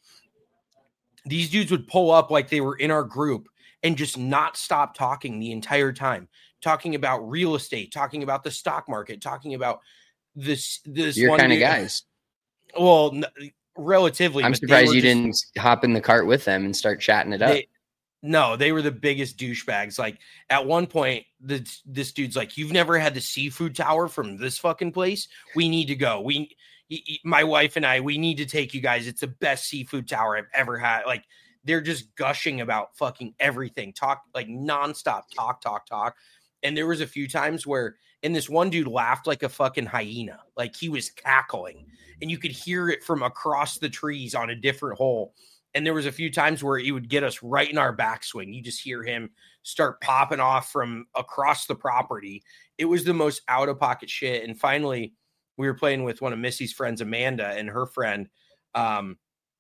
These dudes would pull up like they were in our group and just not stop talking the entire time. Talking about real estate, talking about the stock market, talking about this. This Your one kind of dude- guys. Well, n- relatively. I'm but they surprised were you just- didn't hop in the cart with them and start chatting it up. They, No, they were the biggest douchebags. Like at one point, the, this dude's like, "You've never had the seafood tower from this fucking place? We need to go. We, my wife and I, we need to take you guys. It's the best seafood tower I've ever had." Like they're just gushing about fucking everything, talk like nonstop, talk, talk, talk. And there was a few times where, and this one dude laughed like a fucking hyena, like he was cackling, and you could hear it from across the trees on a different hole. And there was a few times where he would get us right in our backswing. You just hear him start popping off from across the property. It was the most out of pocket shit. And finally, we were playing with one of Missy's friends, Amanda, and her friend, um,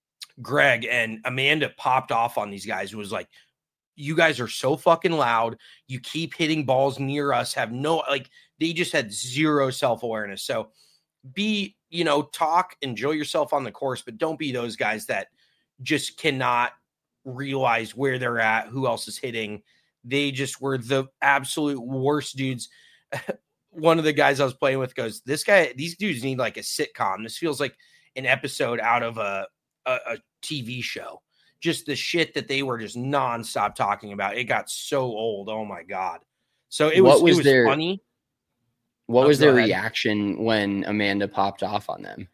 Greg. And Amanda popped off on these guys. It was like, "You guys are so fucking loud. You keep hitting balls near us. Have no, like, they just had zero self-awareness." So be, you know, talk, enjoy yourself on the course, but don't be those guys that just cannot realize where they're at, who else is hitting. They just were the absolute worst dudes. One of the guys I was playing with goes, "This guy, these dudes need like a sitcom. This feels like an episode out of a, a, a T V show." Just the shit that they were just nonstop talking about. It got so old. Oh my God. So it was, what was, it was their, funny. What oh, was their ahead. reaction when Amanda popped off on them?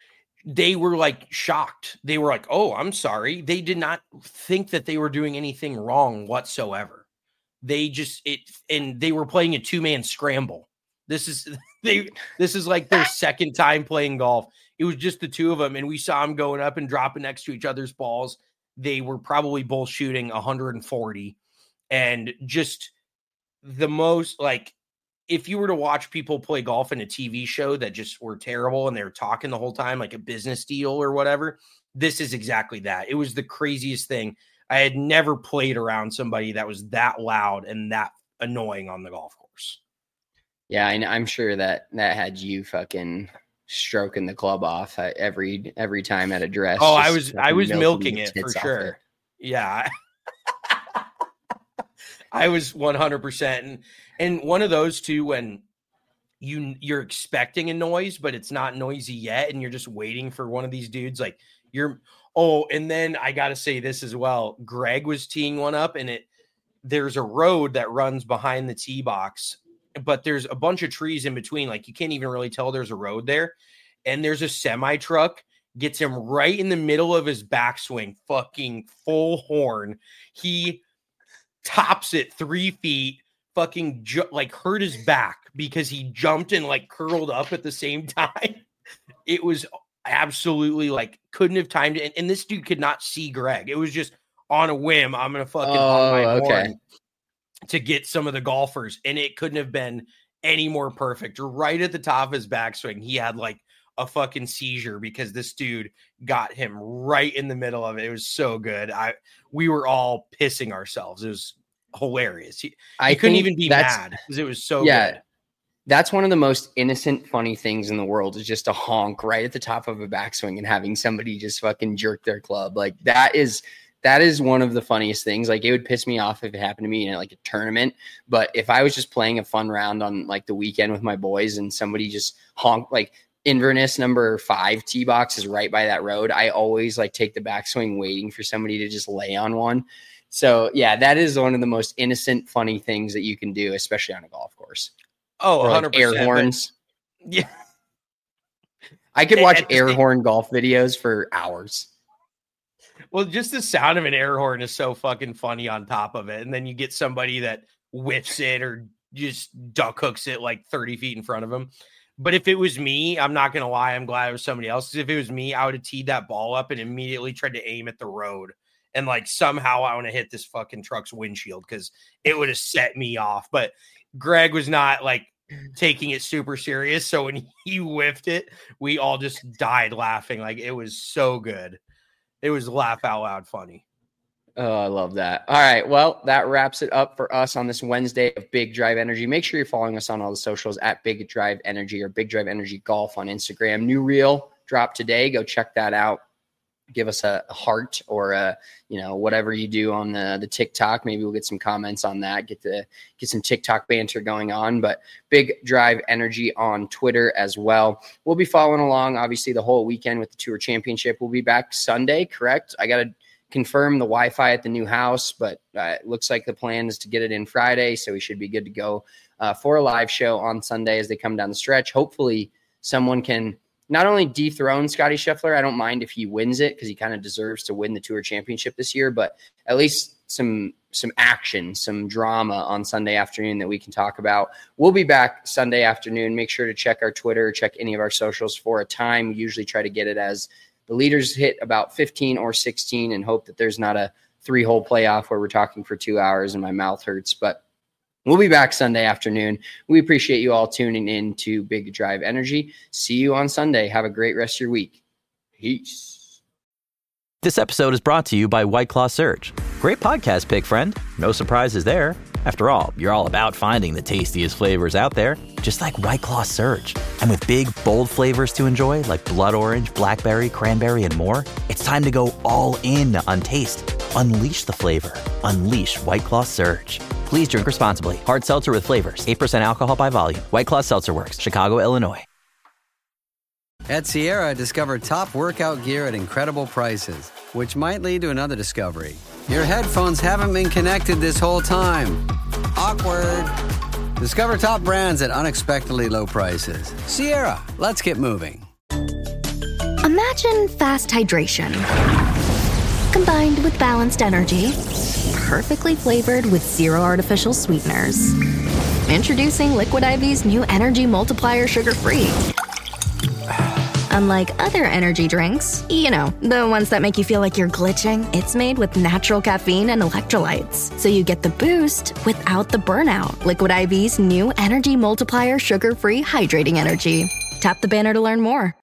They were like shocked. They were like, "Oh, I'm sorry." They did not think that they were doing anything wrong whatsoever. They just, it, and they were playing a two man scramble. This is, they, this is like their second time playing golf. It was just the two of them. And we saw them going up and dropping next to each other's balls. They were probably both shooting one hundred forty, and just the most, like, if you were to watch people play golf in a T V show that just were terrible and they were talking the whole time, like a business deal or whatever, this is exactly that. It was the craziest thing. I had never played around somebody that was that loud and that annoying on the golf course. Yeah, I, I'm sure that that had you fucking stroking the club off every every time at a dress. Oh, I was I was milking, milking it for sure. It. Yeah. I was one hundred percent. And, and one of those two, when you, you're expecting a noise, but it's not noisy yet, and you're just waiting for one of these dudes, like you're, oh, and then I got to say this as well. Greg was teeing one up, and it, there's a road that runs behind the tee box, but there's a bunch of trees in between. Like you can't even really tell there's a road there. And there's a semi truck, gets him right in the middle of his backswing, fucking full horn. He tops it three feet, fucking ju- like hurt his back because he jumped and like curled up at the same time. It was absolutely like, couldn't have timed it. And, and this dude could not see Greg. It was just on a whim. I'm going to fucking oh, on my okay. horn to get some of the golfers. And it couldn't have been any more perfect. Right at the top of his backswing, he had like a fucking seizure because this dude got him right in the middle of it. It was so good. I, we were all pissing ourselves. It was hilarious. He, I he couldn't even be mad because it was so yeah, good. That's one of the most innocent, funny things in the world, is just a honk right at the top of a backswing and having somebody just fucking jerk their club. Like that is, that is one of the funniest things. Like it would piss me off if it happened to me in like a tournament, but if I was just playing a fun round on like the weekend with my boys and somebody just honked, like Inverness number five tee box is right by that road, I always like take the backswing waiting for somebody to just lay on one. So yeah, that is one of the most innocent, funny things that you can do, especially on a golf course. Oh, or one hundred percent. Like air horns. But, yeah. I could watch air horn golf videos for hours. Well, just the sound of an air horn is so fucking funny on top of it. And then you get somebody that whiffs it or just duck hooks it like thirty feet in front of them. But if it was me, I'm not going to lie, I'm glad it was somebody else. Because if it was me, I would have teed that ball up and immediately tried to aim at the road. And like somehow I want to hit this fucking truck's windshield because it would have set me off. But Greg was not like taking it super serious. So when he whiffed it, we all just died laughing. Like it was so good. It was laugh out loud funny. Oh, I love that. All right. Well, that wraps it up for us on this Wednesday of Big Drive Energy. Make sure you're following us on all the socials at Big Drive Energy or Big Drive Energy Golf on Instagram. New reel dropped today. Go check that out. Give us a heart or a, you know, whatever you do on the, the TikTok. Maybe we'll get some comments on that, get the, get some TikTok banter going on, but Big Drive Energy on Twitter as well. We'll be following along, obviously, the whole weekend with the Tour Championship. We'll be back Sunday, correct? I got to confirm the Wi-Fi at the new house, but uh, it looks like the plan is to get it in Friday, so we should be good to go uh, for a live show on Sunday as they come down the stretch. Hopefully someone can not only dethrone Scotty Scheffler, I don't mind if he wins it because he kind of deserves to win the Tour Championship this year, but at least some some action, some drama on Sunday afternoon that we can talk about. We'll be back Sunday afternoon. Make sure to check our Twitter, check any of our socials for a time. We usually try to get it as the leaders hit about fifteen or sixteen and hope that there's not a three-hole playoff where we're talking for two hours and my mouth hurts. But we'll be back Sunday afternoon. We appreciate you all tuning in to Big Drive Energy. See you on Sunday. Have a great rest of your week. Peace. This episode is brought to you by White Claw Surge. Great podcast pick, friend. No surprises there. After all, you're all about finding the tastiest flavors out there, just like White Claw Surge. And with big, bold flavors to enjoy, like blood orange, blackberry, cranberry, and more, it's time to go all in on taste. Unleash the flavor. Unleash White Claw Surge. Please drink responsibly. Hard seltzer with flavors. eight percent alcohol by volume. White Claw Seltzer Works. Chicago, Illinois. At Sierra, discover top workout gear at incredible prices, which might lead to another discovery. Your headphones haven't been connected this whole time. Awkward. Discover top brands at unexpectedly low prices. Sierra, let's get moving. Imagine fast hydration, combined with balanced energy, perfectly flavored with zero artificial sweeteners. Introducing Liquid I V's new Energy Multiplier Sugar-Free. Unlike other energy drinks, you know, the ones that make you feel like you're glitching, it's made with natural caffeine and electrolytes, so you get the boost without the burnout. Liquid I V's new Energy Multiplier Sugar-Free Hydrating Energy. Tap the banner to learn more.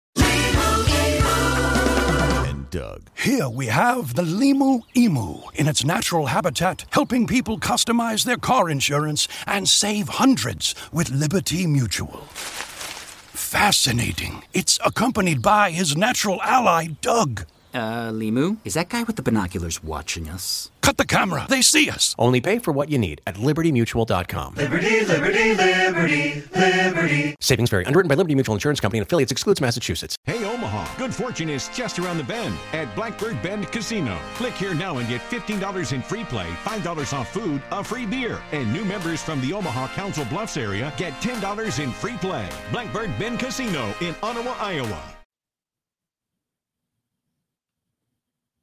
And Doug. Here we have the Limu Emu in its natural habitat, helping people customize their car insurance and save hundreds with Liberty Mutual. Fascinating. It's accompanied by his natural ally, Doug. Uh, Limu? Is that guy with the binoculars watching us? Cut the camera. They see us. Only pay for what you need at liberty mutual dot com. Liberty, liberty, liberty, liberty. Savings vary. Underwritten by Liberty Mutual Insurance Company and affiliates. Excludes Massachusetts. Hey, Omaha. Good fortune is just around the bend at Blackbird Bend Casino. Click here now and get fifteen dollars in free play, five dollars off food, a free beer. And new members from the Omaha Council Bluffs area get ten dollars in free play. Blackbird Bend Casino in Ottawa, Iowa.